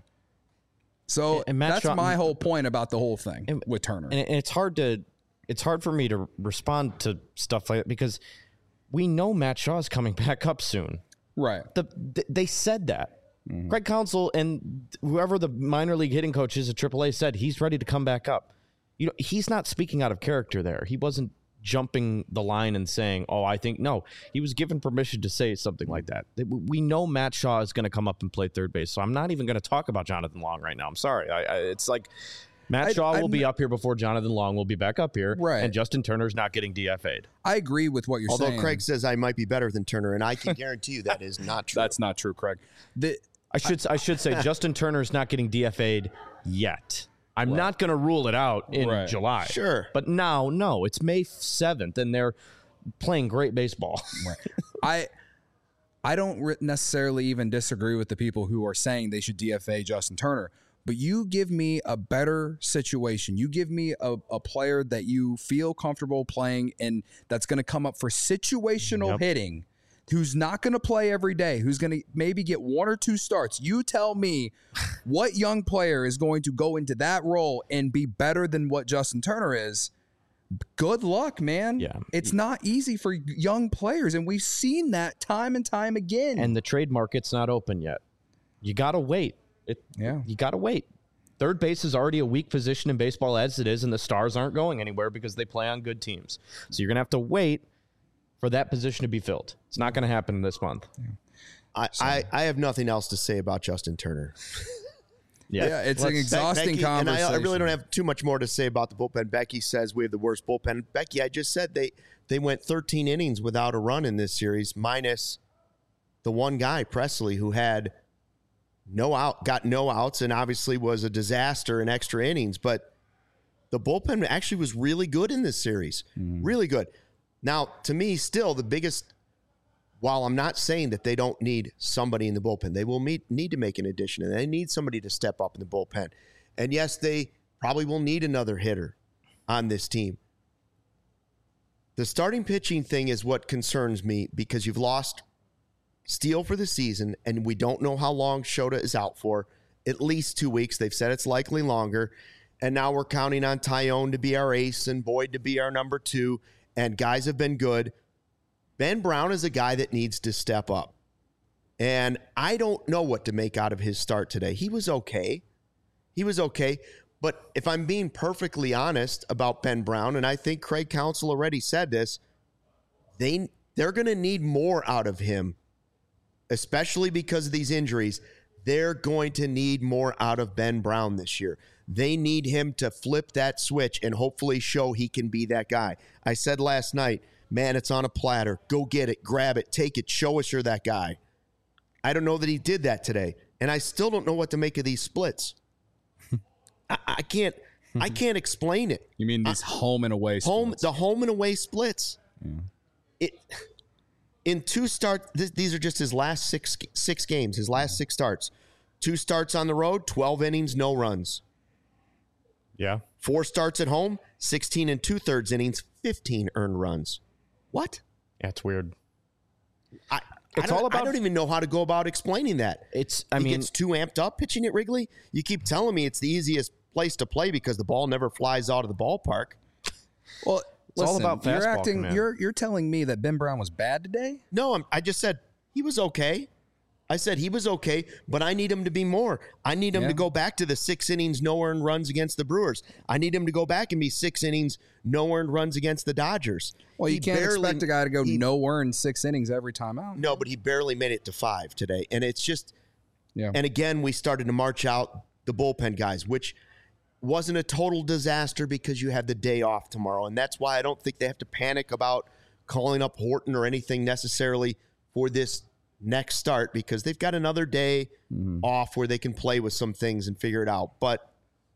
So and Matt that's Shaw, my whole point about the whole thing and, with Turner. And it's hard to it's hard for me to respond to stuff like that because we know Matt Shaw is coming back up soon. Right. The, the, they said that. Mm-hmm. Craig Counsell and whoever the minor league hitting coach is at triple A said he's ready to come back up. You know, he's not speaking out of character there. He wasn't jumping the line and saying, oh, I think, no. He was given permission to say something like that. We know Matt Shaw is going to come up and play third base, so I'm not even going to talk about Jonathan Long right now. I'm sorry. I, I, it's like Matt Shaw I, will be up here before Jonathan Long will be back up here, right. and Justin Turner's not getting D F A'd. I agree with what you're Although saying. Although Craig says I might be better than Turner, and I can guarantee you that is not true. That's not true, Craig. The, I should I should say Justin Turner's not getting D F A'd yet. I'm right. not going to rule it out in right. July. Sure. But now, no, it's May seventh, and they're playing great baseball. Right. I I don't necessarily even disagree with the people who are saying they should D F A Justin Turner. But you give me a better situation. You give me a, a player that you feel comfortable playing and that's going to come up for situational yep. hitting, who's not going to play every day, who's going to maybe get one or two starts. You tell me what young player is going to go into that role and be better than what Justin Turner is. Good luck, man. Yeah. It's not easy for young players, and we've seen that time and time again. And the trade market's not open yet. You got to wait. It, yeah. You got to wait. Third base is already a weak position in baseball as it is, and the Stars aren't going anywhere because they play on good teams. So you're going to have to wait for that position to be filled. It's not going to happen this month. Yeah. I, so. I, I have nothing else to say about Justin Turner. yeah. yeah, it's Let's, an exhausting Becky, conversation. And I, I really don't have too much more to say about the bullpen. Becky says we have the worst bullpen. Becky, I just said they, they went thirteen innings without a run in this series, minus the one guy, Presley, who had no out, got no outs, and obviously was a disaster in extra innings. But the bullpen actually was really good in this series. Mm. Really good. Now, to me, still the biggest while I'm not saying that they don't need somebody in the bullpen, they will meet, need to make an addition, and they need somebody to step up in the bullpen. And yes, they probably will need another hitter on this team. The starting pitching thing is what concerns me because you've lost Steele for the season, and we don't know how long Shota is out for. At least two weeks. They've said it's likely longer. And now we're counting on Tyone to be our ace and Boyd to be our number two, and guys have been good. Ben Brown is a guy that needs to step up. And I don't know what to make out of his start today. He was okay. He was okay. But if I'm being perfectly honest about Ben Brown, and I think Craig Counsell already said this, they, they're going to need more out of him, especially because of these injuries. They're going to need more out of Ben Brown this year. They need him to flip that switch and hopefully show he can be that guy. I said last night, man, it's on a platter. Go get it, grab it, take it, show us you're that guy. I don't know that he did that today, and I still don't know what to make of these splits. I, I can't I can't explain it. You mean these I, home and away splits? Home, the home and away splits. Yeah. It in two start. Th- these are just his last six six games. His last six starts. Two starts on the road, twelve innings, no runs. Yeah. Four starts at home, sixteen and two thirds innings, fifteen earned runs. What? Yeah, it's weird. I, It's I all about- I don't even know how to go about explaining that. It's, I he mean, gets too amped up pitching at Wrigley. You keep telling me it's the easiest place to play because the ball never flies out of the ballpark. Well, It's all listen, about you're fastball acting. command. You're you're telling me that Ben Brown was bad today? No, I'm, I just said he was okay. I said he was okay, but I need him to be more. I need him Yeah. to go back to the six innings, no earned runs against the Brewers. I need him to go back and be six innings, no earned runs against the Dodgers. Well, you He can't barely- expect a guy to go he- nowhere in six innings every time out. No, but he barely made it to five today. And it's just, Yeah. and again, we started to march out the bullpen guys, which wasn't a total disaster because you have the day off tomorrow. And that's why I don't think they have to panic about calling up Horton or anything necessarily for this next start because they've got another day Mm-hmm. off where they can play with some things and figure it out. But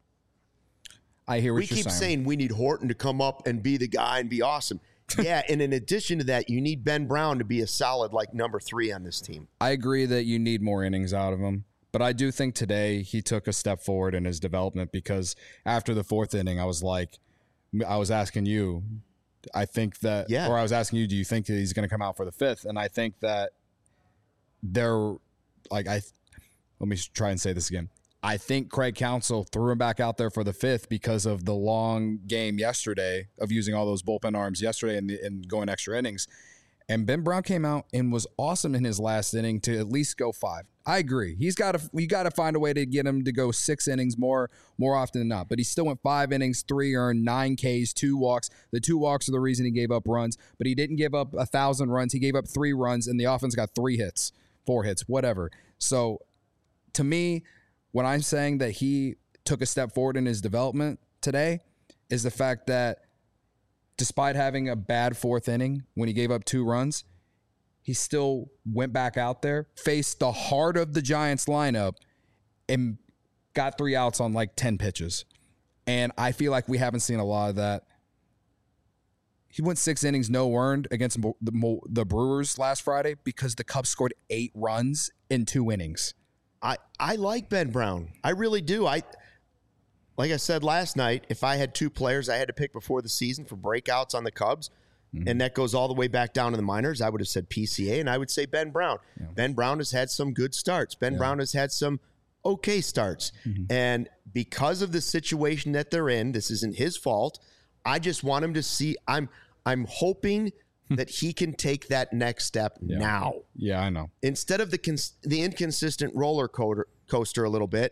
I hear what we you're keep saying. saying we need Horton to come up and be the guy and be awesome. Yeah, and in addition to that, you need Ben Brown to be a solid like number three on this team. I agree that you need more innings out of him. But I do think today he took a step forward in his development because after the fourth inning, I was like, I was asking you, I think that, Yeah. or I was asking you, do you think that he's going to come out for the fifth? And I think that they're like, I, let me try and say this again. I think Craig Counsell threw him back out there for the fifth because of the long game yesterday of using all those bullpen arms yesterday and, the, and going extra innings. And Ben Brown came out and was awesome in his last inning to at least go five. I agree. He's got to you got to find a way to get him to go six innings more more often than not. But he still went five innings, three earned, nine Ks, two walks. The two walks are the reason he gave up runs. But he didn't give up a thousand runs. He gave up three runs, and the offense got three hits, four hits, whatever. So to me, when I'm saying that he took a step forward in his development today, is the fact that despite having a bad fourth inning when he gave up two runs, he still went back out there, faced the heart of the Giants lineup, and got three outs on like ten pitches. And I feel like we haven't seen a lot of that. He went six innings, no earned against the, the Brewers last Friday because the Cubs scored eight runs in two innings. I, I like Ben Brown. I really do. I like I said last night, if I had two players I had to pick before the season for breakouts on the Cubs, mm-hmm. and that goes all the way back down to the minors, I would have said P C A, and I would say Ben Brown. Yeah. Ben Brown has had some good starts. Ben yeah. Brown has had some okay starts. Mm-hmm. And because of the situation that they're in, this isn't his fault. I just want him to see – I'm I'm hoping – that he can take that next step yeah. now. Yeah, I know. Instead of the cons- the inconsistent roller coaster, coaster a little bit,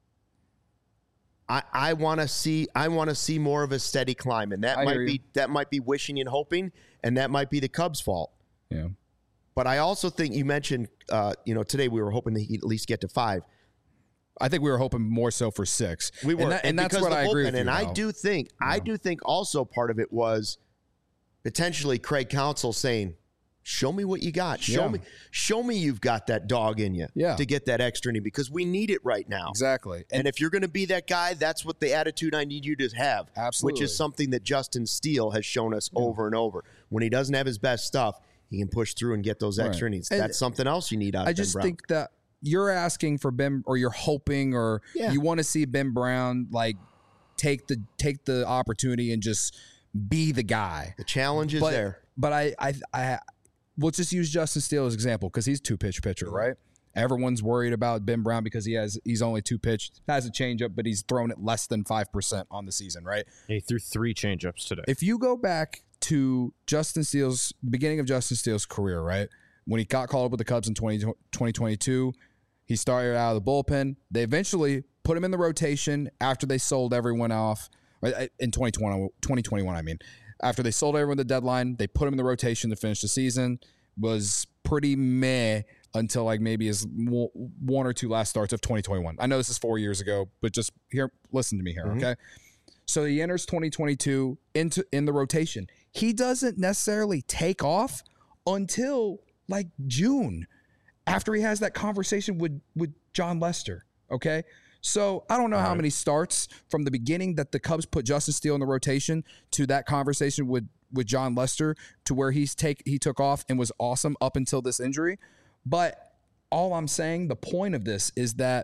I, I want to see I want to see more of a steady climb, and that I might hear be you. that might be wishing and hoping, and that might be the Cubs' fault. Yeah. But I also think you mentioned, uh, you know, today we were hoping that he'd at least get to five. I think we were hoping more so for six. We were, and, that, and, and that's because what the I bullpen, agree with And you I about. do think, yeah. I do think also part of it was potentially Craig Counsell saying, show me what you got. Show Yeah. me show me you've got that dog in you Yeah. to get that extra inning because we need it right now. Exactly. And, and if you're going to be that guy, that's what the attitude I need you to have. Absolutely. Which is something that Justin Steele has shown us yeah. over and over. When he doesn't have his best stuff, he can push through and get those extra Right. innings. And That's something else you need out of I Ben just Brown. think that you're asking for Ben, or you're hoping, or Yeah. you want to see Ben Brown like take the take the opportunity and just be the guy. the challenge is but, there. But I, I, I, we'll just use Justin Steele as an example because he's two pitch pitcher, right? Everyone's worried about Ben Brown because he has he's only two pitch, has a changeup, but he's thrown it less than five percent on the season, right? He threw three changeups today. If you go back to Justin Steele's beginning of Justin Steele's career, right? When he got called up with the Cubs in twenty twenty-two, he started out of the bullpen. They eventually put him in the rotation after they sold everyone off. Right, in twenty twenty, twenty twenty-one, I mean. After they sold everyone the deadline, they put him in the rotation to finish the season. Was pretty meh until like maybe his one or two last starts of twenty twenty-one. I know this is four years ago, but just here, listen to me here, Mm-hmm. okay? So he enters twenty twenty-two into in the rotation. He doesn't necessarily take off until like June, after he has that conversation with with John Lester. Okay, so I don't know how many starts from the beginning that the Cubs put Justin Steele in the rotation to that conversation with with John Lester to where he's take he took off and was awesome up until this injury. But all I'm saying, the point of this is that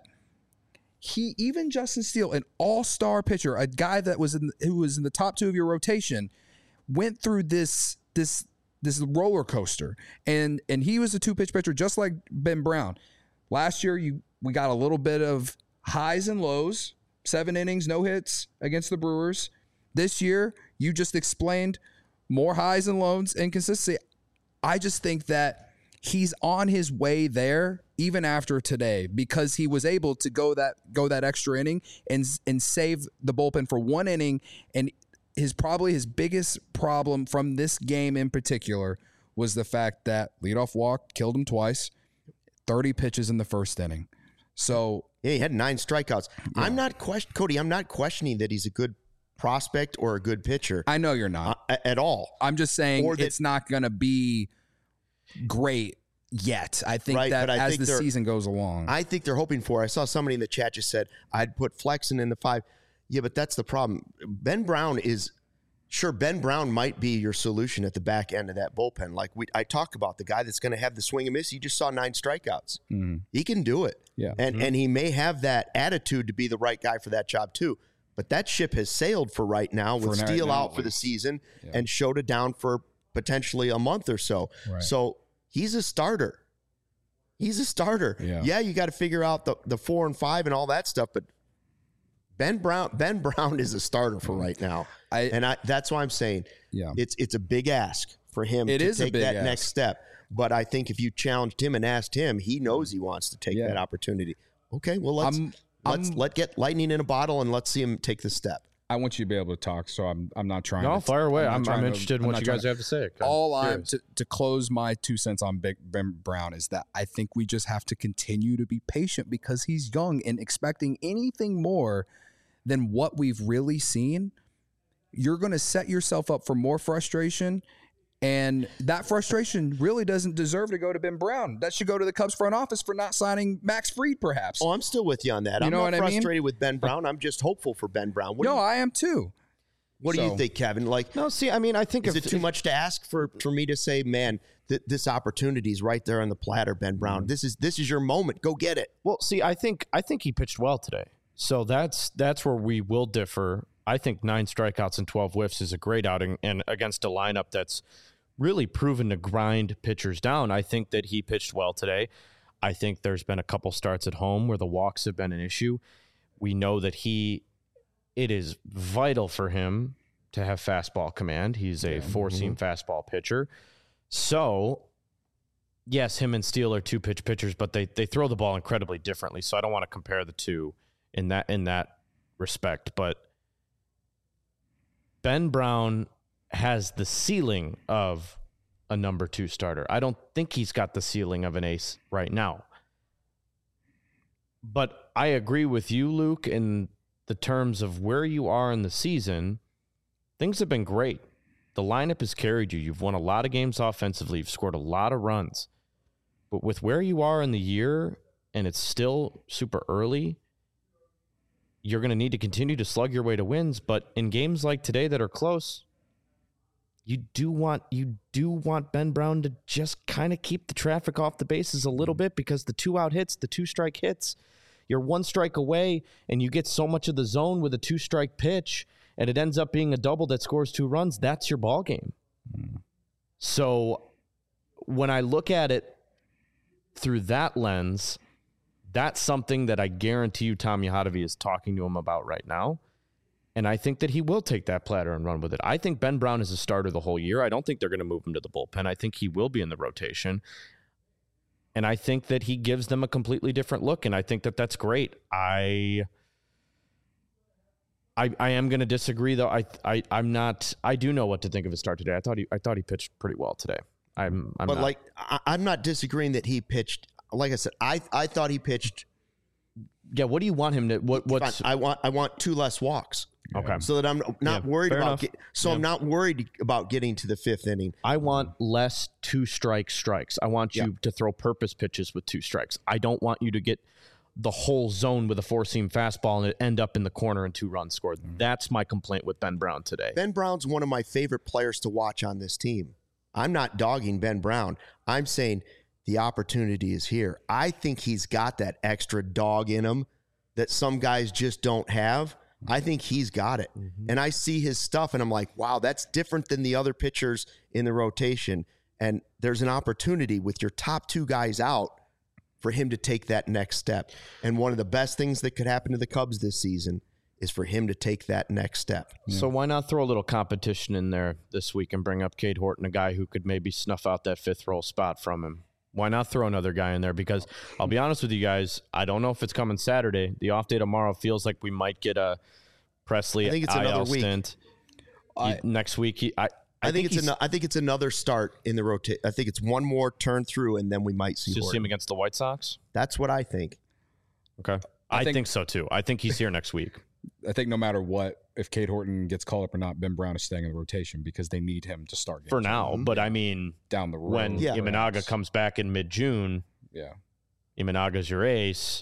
he, even Justin Steele, an all-star pitcher, a guy that was in who was in the top two of your rotation, went through this this this roller coaster, and and he was a two-pitch pitcher just like Ben Brown. Last year, you we got a little bit of highs and lows, seven innings, no hits against the Brewers. This year, you just explained more highs and lows and consistency. I just think that he's on his way there even after today because he was able to go that go that extra inning and and save the bullpen for one inning. And his probably his biggest problem from this game in particular was the fact that leadoff walk killed him twice, thirty pitches in the first inning. So Yeah, he had nine strikeouts. I'm not question Cody. I'm not questioning that he's a good prospect or a good pitcher I know you're not. uh, at all. I'm just saying or that- it's not going to be great yet. I think Right, that but I as think the they're- season goes along. I think they're hoping for. I saw somebody in the chat just said I'd put Flexen in the five. Yeah, but that's the problem. Ben Brown is sure. Ben Brown might be your solution at the back end of that bullpen. Like we, I talk about the guy that's going to have the swing and miss. You just saw nine strikeouts. Mhm. He can do it. Yeah. and and he may have that attitude to be the right guy for that job too. But that ship has sailed for right now with For right Steele now, out at for the least. season Yeah. and Shota down for potentially a month or so. Right. So he's a starter. He's a starter. Yeah. you got to figure out the, the four and five and all that stuff. But Ben Brown, Ben Brown is a starter for right now, I, and I, that's why I'm saying yeah. it's it's a big ask for him It to is a take big that ask. next step. But I think if you challenged him and asked him, he knows he wants to take Yeah. that opportunity. Okay, well let's I'm- let's I'm- let get lightning in a bottle and let's see him take the step. I want you to be able to talk, so I'm I'm not trying No, to fire away. not I'm, trying I'm to- interested in I'm what not you trying guys to- have to say. I'm All I'm curious. to, to close my two cents on Big Ben Brown is that I think we just have to continue to be patient because he's young, and expecting anything more than what we've really seen, you're going to set yourself up for more frustration. And that frustration really doesn't deserve to go to Ben Brown. That should go to the Cubs front office for not signing Max Fried, perhaps. Oh, I'm still with you on that. You I'm know not what I mean? frustrated with Ben Brown. I'm just hopeful for Ben Brown. What, no, do, you, I am too. what do so- you think, Kevin? Like, No, see, I mean, I think is if, it too much to ask for, for me to say, man, th- this opportunity is right there on the platter, Ben Brown. Mm-hmm. This is this is your moment. Go get it. Well, see, I think I think he pitched well today. So that's that's where we will differ. I think nine strikeouts and twelve whiffs is a great outing, and against a lineup that's really proven to grind pitchers down. I think that he pitched well today. I think there's been a couple starts at home where the walks have been an issue. We know that he, it is vital for him to have fastball command. He's a four-seam fastball pitcher. So, yes, him and Steele are two-pitch pitchers, but they they throw the ball incredibly differently. So I don't want to compare the two in that in that respect. But Ben Brown has the ceiling of a number two starter. I don't think he's got the ceiling of an ace right now. But I agree with you, Luke, in the terms of where you are in the season. Things have been great. The lineup has carried you. You've won a lot of games offensively. You've scored a lot of runs. But with where you are in the year, and it's still super early, you're going to need to continue to slug your way to wins. But in games like today that are close, you do want you do want Ben Brown to just kind of keep the traffic off the bases a little bit, because the two out hits, the two strike hits, you're one strike away and you get so much of the zone with a two strike pitch and it ends up being a double that scores two runs. That's your ball game. Mm. So when I look at it through that lens, that's something that I guarantee you Tom Yahadevi is talking to him about right now. And I think that he will take that platter and run with it. I think Ben Brown is a starter the whole year. I don't think they're going to move him to the bullpen. I think he will be in the rotation. And I think that he gives them a completely different look. And I think that that's great. I I, I am going to disagree, though. I, I, I'm not – I do know what to think of his start today. I thought he I thought he pitched pretty well today. I'm, I'm but, not. like, I, I'm not disagreeing that he pitched – like I said, I, I thought he pitched – Yeah, what do you want him to – What? What's, I want I want two less walks. Okay. So that I'm not Yeah, worried fair about. enough. Get, so Yeah. I'm not worried about getting to the fifth inning. I want less two strike strikes. I want you Yeah. to throw purpose pitches with two strikes. I don't want you to get the whole zone with a four seam fastball and it end up in the corner and two runs scored. That's my complaint with Ben Brown today. Ben Brown's one of my favorite players to watch on this team. I'm not dogging Ben Brown. I'm saying the opportunity is here. I think he's got that extra dog in him that some guys just don't have. I think he's got it. Mm-hmm. And I see his stuff and I'm like, wow, that's different than the other pitchers in the rotation. And there's an opportunity with your top two guys out for him to take that next step. And one of the best things that could happen to the Cubs this season is for him to take that next step. So why not throw a little competition in there this week and bring up Cade Horton, a guy who could maybe snuff out that fifth roll spot from him? Why not throw another guy in there? Because I'll be honest with you guys, I don't know if it's coming Saturday. The off day tomorrow feels like we might get a Presley I think it's I L another week. stint. I- Next week, he, I, I, I, think, it's he's- an, I think it's another start in the rotation. I think it's one more turn through, and then we might see. just see Horton. him against the White Sox. That's what I think. Okay, I, I think, think- so too. I think he's here next week. I think no matter what, if Cade Horton gets called up or not, Ben Brown is staying in the rotation because they need him to start games For now, but I mean, down the road. when Yeah. Imanaga comes back in mid-June, yeah, Imanaga's your ace.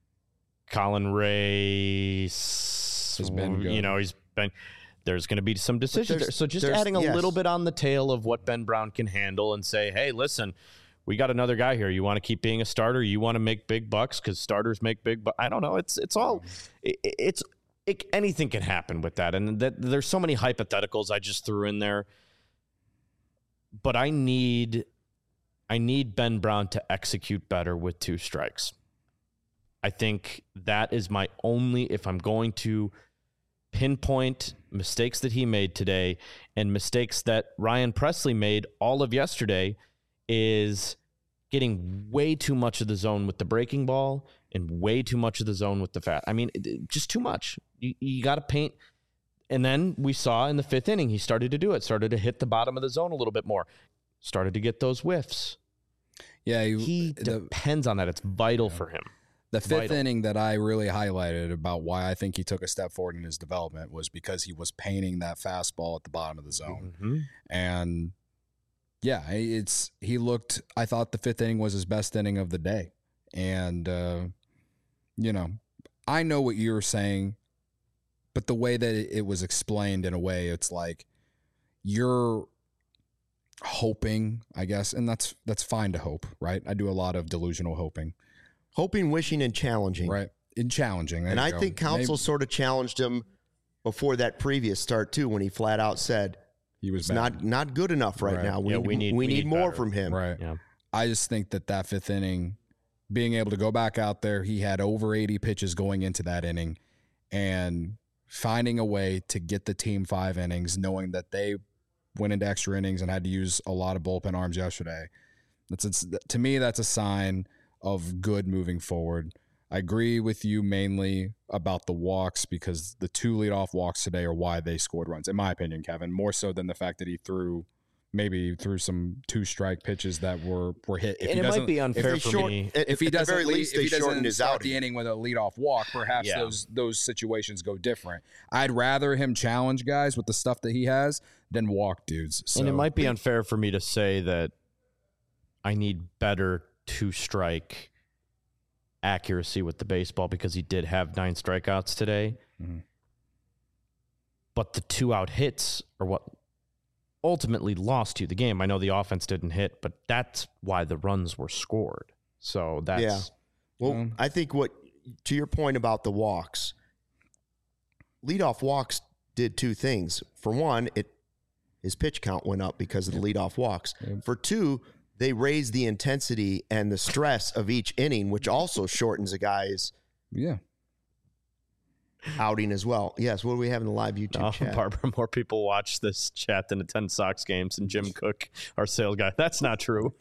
Colin Ray has been good. You know, he's been. There's going to be some decisions there's- there. So just there's- adding a yes. little bit on the tail of what Ben Brown can handle and say, hey, listen, we got another guy here. You want to keep being a starter? You want to make big bucks because starters make big bucks? I don't know. It's it's all it, it's it, anything can happen with that, and that there's so many hypotheticals I just threw in there. But I need I need Ben Brown to execute better with two strikes. I think that is my only, if I'm going to pinpoint mistakes that he made today and mistakes that Ryan Presley made all of yesterday, is getting way too much of the zone with the breaking ball and way too much of the zone with the fat. I mean, it- just too much. You, you got to paint. And then we saw in the fifth inning, he started to do it, started to hit the bottom of the zone a little bit more, started to get those whiffs. yeah. He, He the, depends on that. It's vital for him. the fifth vital. inning that I really highlighted about why I think he took a step forward in his development was because he was painting that fastball at the bottom of the zone. Mm-hmm. And yeah, it's he looked. I thought the fifth inning was his best inning of the day, and uh, you know, I know what you're saying, but the way that it, it was explained in a way, it's like you're hoping, I guess, and that's that's fine to hope, right? I do a lot of delusional hoping, Hoping, wishing, and challenging. right? And challenging, there And you I go. think Counsel Maybe sort of challenged him before that previous start too, when he flat out said he was it's bad. not not good enough right, Right. now. We, Yeah, need, we need- we we need need more better. from him. right. Yeah. I just think that that fifth inning, being able to go back out there, he had over eighty pitches going into that inning, and finding a way to get the team five innings, knowing that they went into extra innings and had to use a lot of bullpen arms yesterday. That's it's, to me, that's a sign of good moving forward. I agree with you mainly about the walks because the two leadoff walks today are why they scored runs, in my opinion, Kevin, more so than the fact that he threw maybe threw some two strike pitches that were, were hit. If And he it might doesn't- be unfair They for short- me. at- if he at the doesn't very lead, least, if they he shortened doesn't his start outing. the inning with a leadoff walk, perhaps Yeah. those those situations go different. I'd rather him challenge guys with the stuff that he has than walk dudes. So, And it might be unfair for me to say that I need better two strike accuracy with the baseball because he did have nine strikeouts today. Mhm. But the two out hits are what ultimately lost you the game. I know the offense didn't hit, but that's why the runs were scored. So that's Yeah. Well, Um, I think what, to your point about the walks, leadoff walks did two things. For one, it his pitch count went up because of the leadoff walks. Yep. For two, they raised the intensity and the stress of each inning, which also shortens a guy's Yeah. outing as well. Yes, what do we have in the live YouTube Oh, chat? Barbara, more people watch this chat than attend Sox games, and Jim Cook, our sales guy. That's not true.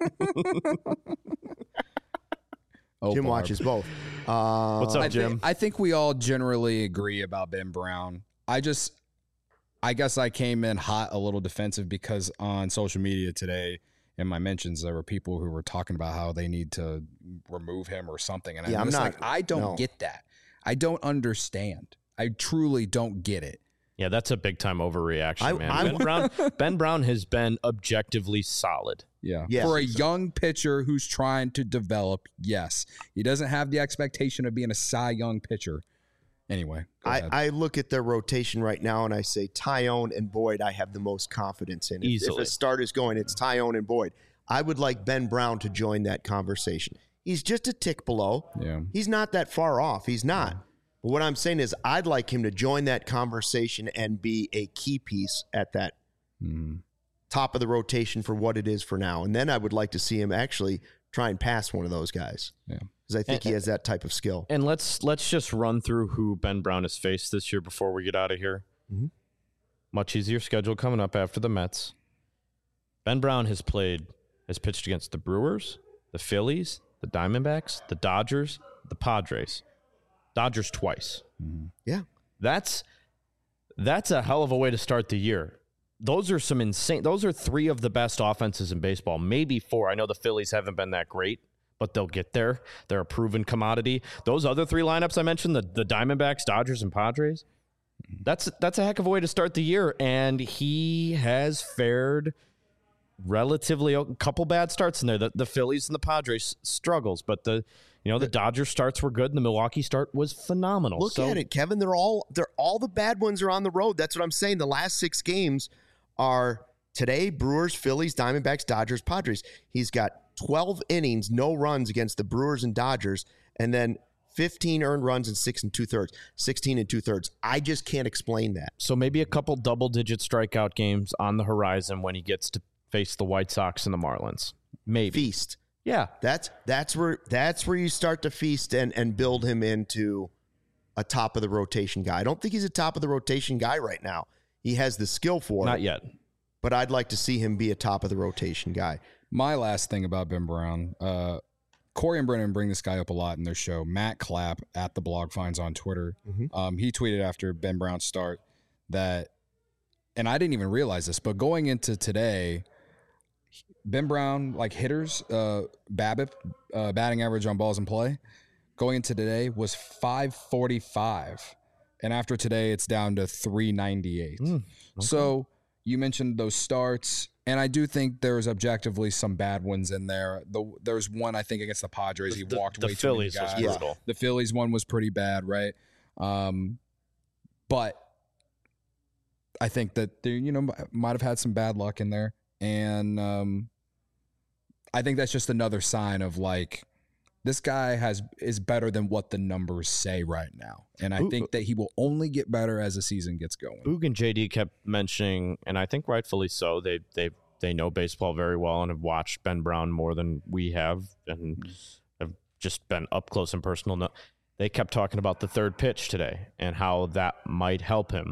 Oh, Jim Barb. watches both. Uh, What's up, I Jim? Think, I think we all generally agree about Ben Brown. I just, I guess I came in hot, a little defensive, because on social media today, in my mentions, there were people who were talking about how they need to remove him or something. And Yeah, I'm, I'm just not- like, I don't no. get that. I don't understand. I truly don't get it. Yeah, that's a big time overreaction, I- man. I- Ben Brown, Ben Brown has been objectively solid. Yeah. Yes. For a young pitcher who's trying to develop, yes. He doesn't have the expectation of being a Cy Young pitcher. Anyway, go I, ahead. I look at their rotation right now and I say Tyone and Boyd I have the most confidence in. If, if Easily. a start is going, it's Tyone and Boyd. I would like Ben Brown to join that conversation. He's just a tick below. Yeah. He's not that far off. He's not. But what I'm saying is I'd like him to join that conversation and be a key piece at that Mhm. top of the rotation for what it is for now. And then I would like to see him actually try and pass one of those guys. Yeah. Because I think And- he has that type of skill. And let's let's just run through who Ben Brown has faced this year before we get out of here. Mhm. Much easier schedule coming up after the Mets. Ben Brown has played, has pitched against the Brewers, the Phillies, the Diamondbacks, the Dodgers, the Padres. Dodgers twice. Yeah. That's that's a hell of a way to start the year. Those are some insane. Those are three of the best offenses in baseball, maybe four. I know the Phillies haven't been that great, but they'll get there. They're a proven commodity. Those other three lineups I mentioned, the, the Diamondbacks, Dodgers, and Padres, that's that's a heck of a way to start the year. And he has fared relatively a couple bad starts in there. The, the Phillies and the Padres struggles, but the you know the Dodgers starts were good, and the Milwaukee start was phenomenal. Look So- at it, Kevin. They're all they're all the bad ones are on the road. That's what I'm saying. The last six games are today: Brewers, Phillies, Diamondbacks, Dodgers, Padres. He's got twelve innings, no runs against the Brewers and Dodgers, and then fifteen earned runs and six and two thirds, sixteen and two thirds. I just can't explain that. So maybe a couple double-digit strikeout games on the horizon when he gets to face the White Sox and the Marlins. Maybe. Feast. Yeah. That's that's where that's where you start to feast and and build him into a top of the rotation guy. I don't think he's a top of the rotation guy right now. He has the skill for Not it, yet. but I'd like to see him be a top of the rotation guy. My last thing about Ben Brown, uh, Corey and Brennan bring this guy up a lot in their show. Matt Clapp at the Blog Finds on Twitter. Mhm. Um, he tweeted after Ben Brown's start that, and I didn't even realize this, but going into today, Ben Brown, like hitters, uh, BABIP, uh, batting average on balls in play, going into today was five forty-five. And after today, it's down to three ninety-eight. Mm, So you mentioned those starts, and I do think there's objectively some bad ones in there. The, there's one, I think, against the Padres. He The- walked the way Phillies too was many guys. brutal. The Phillies one was pretty bad, right? Um, but I think that they, you know, might have had some bad luck in there, and um, I think that's just another sign of like this guy has is better than what the numbers say right now, and I Ooh. think that he will only get better as the season gets going. Boog and J D kept mentioning, and I think rightfully so, they they they know baseball very well and have watched Ben Brown more than we have and have just been up close and personal. No, they kept talking about the third pitch today and how that might help him.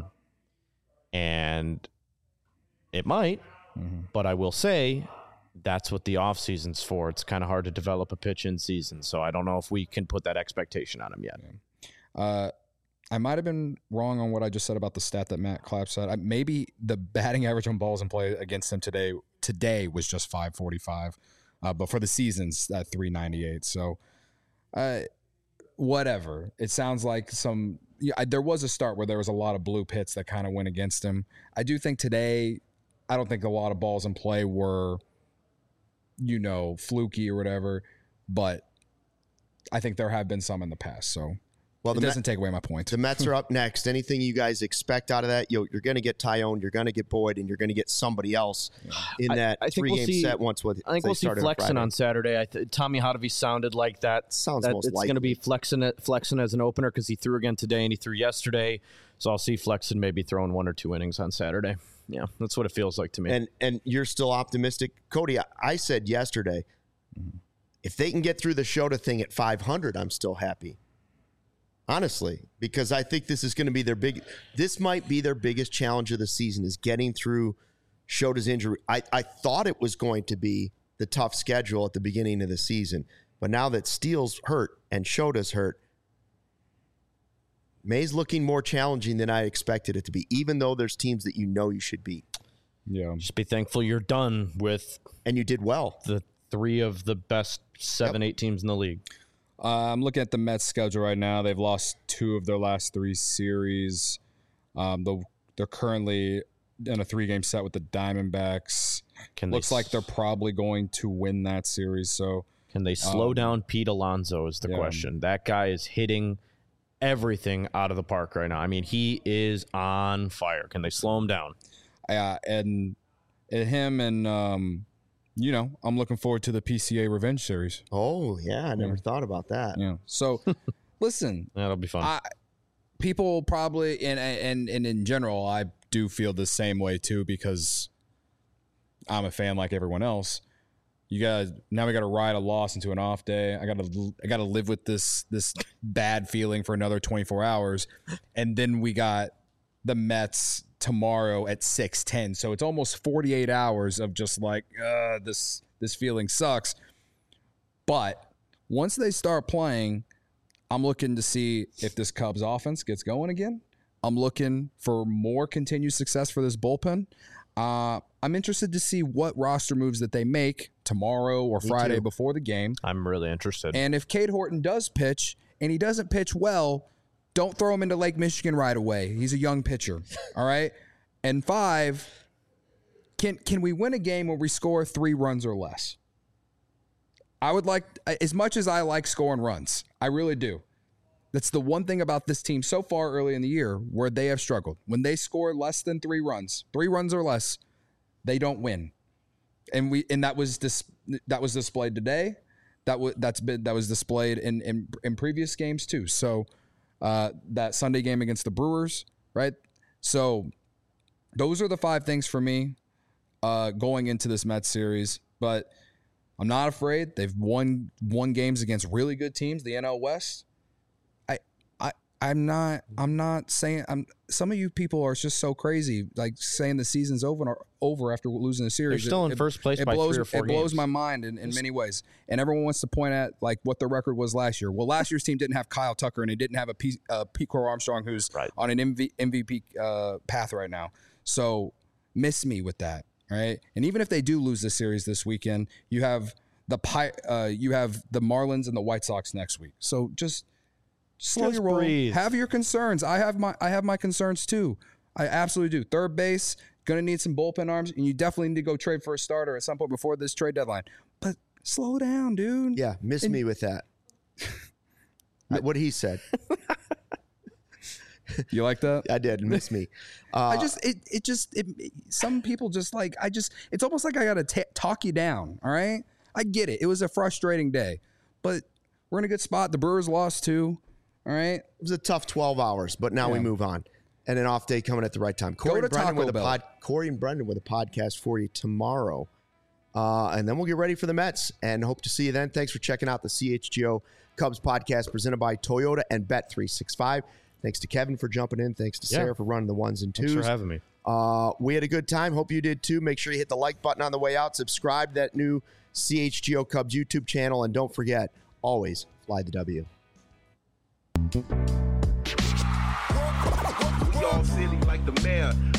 And it might, Mhm. but I will say that's what the offseason's for. It's kind of hard to develop a pitch in season, so I don't know if we can put that expectation on him yet. Uh, I might have been wrong on what I just said about the stat that Matt Clapp said. I, maybe the batting average on balls in play against him today today was just five forty-five, uh, but for the season's at three ninety-eight. So, uh, whatever. It sounds like some. Yeah, I, there was a start where there was a lot of blue pits that kind of went against him. I do think today, I don't think a lot of balls in play were, you know, fluky or whatever, but I think there have been some in the past. So. Well, it the doesn't Met, take away my point. The Mets are up next. Anything you guys expect out of that? You're, you're going to get Tyone, you're going to get Boyd, and you're going to get somebody else in that I, I three-game we'll see, set once with I think we'll see Flexen on Saturday. I th- Tommy Hotovy sounded like that. Sounds that most it's likely. going to be Flexen, Flexen as an opener because he threw again today and he threw yesterday. So I'll see Flexen maybe throwing one or two innings on Saturday. Yeah, that's what it feels like to me. And and you're still optimistic. Cody, I, I said yesterday, mm-hmm. if they can get through the Shota thing at five hundred, I'm still happy. Honestly, because I think this is going to be their big, this might be their biggest challenge of the season is getting through Shota's injury. I, I thought it was going to be the tough schedule at the beginning of the season, but now that Steele's hurt and Shota's hurt, May's looking more challenging than I expected it to be, even though there's teams that you know you should beat. Yeah. Just be thankful you're done with. And you did well. The three of the best seven, yep. eight teams in the league. Uh, I'm looking at the Mets schedule right now. They've lost two of their last three series. Um, the, they're currently in a three-game set with the Diamondbacks. Can Looks like they're probably going to win that series. So can they slow um, down Pete Alonso is the yeah. question. That guy is hitting everything out of the park right now. I mean, he is on fire. Can they slow him down? Yeah, uh, and, and him and um, – you know, I'm looking forward to the P C A Revenge Series. Oh, yeah. I never yeah. thought about that. Yeah. So, listen. That'll be fun. I, people probably, and, and, and in general, I do feel the same way, too, because I'm a fan like everyone else. You guys, now we got to ride a loss into an off day. I got to I got to live with this this bad feeling for another twenty-four hours. And then we got the Mets tomorrow at six ten, so it's almost forty-eight hours of just like uh this this feeling sucks. But once they start playing, I'm looking to see if this Cubs offense gets going again. I'm looking for more continued success for this bullpen. uh I'm interested to see what roster moves that they make tomorrow or Me Friday too. before the game. I'm really interested. And if Cade Horton does pitch and he doesn't pitch well, don't throw him into Lake Michigan right away. He's a young pitcher. All right. And five, can can we win a game where we score three runs or less? I would like, as much as I like scoring runs, I really do. That's the one thing about this team so far early in the year where they have struggled. When they score less than three runs, three runs or less, they don't win. And we and that was dis, that was displayed today. That was that's been that was displayed in in, in previous games too. So. Uh, that Sunday game against the Brewers, right? So those are the five things for me uh, going into this Mets series. But I'm not afraid. They've won won games against really good teams, the N L West. I I I'm not I'm not saying I'm. Some of you people are just so crazy, like saying the season's over over after losing the series. They're still it, in first place it by blows, three or four It blows games. my mind in, in many ways. And everyone wants to point at like what the record was last year. Well, last year's team didn't have Kyle Tucker and it didn't have a P, uh, Pete Crow Armstrong who's right. on an M V P uh, path right now. So miss me with that, right? And even if they do lose this series this weekend, you have the Pi- uh, you have the Marlins and the White Sox next week. So just slow Just your roll. breathe. Have your concerns. I have my I have my concerns too. I absolutely do. Third base, going to need some bullpen arms, and you definitely need to go trade for a starter at some point before this trade deadline. But slow down, dude. Yeah, miss And- me with that. What he said. You like that? I did. Miss me. Uh, I just, it, it just, it, it- some people just like, I just, it's almost like I got to talk you down. All right. I get it. It was a frustrating day, but we're in a good spot. The Brewers lost too. All right. It was a tough twelve hours, but now we Yeah. move on. And an off day coming at the right time. Corey to and Brendan Taco with a Bell. pod, Corey and Brendan with a podcast for you tomorrow. Uh, and then we'll get ready for the Mets and hope to see you then. Thanks for checking out the C H G O Cubs podcast presented by Toyota and Bet three sixty-five. Thanks to Kevin for jumping in. Thanks to Yeah. Sarah for running the ones and twos. Thanks for having me. Uh, we had a good time. Hope you did too. Make sure you hit the like button on the way out. Subscribe to that new C H G O Cubs YouTube channel. And don't forget, always fly the W. We all silly like the mayor.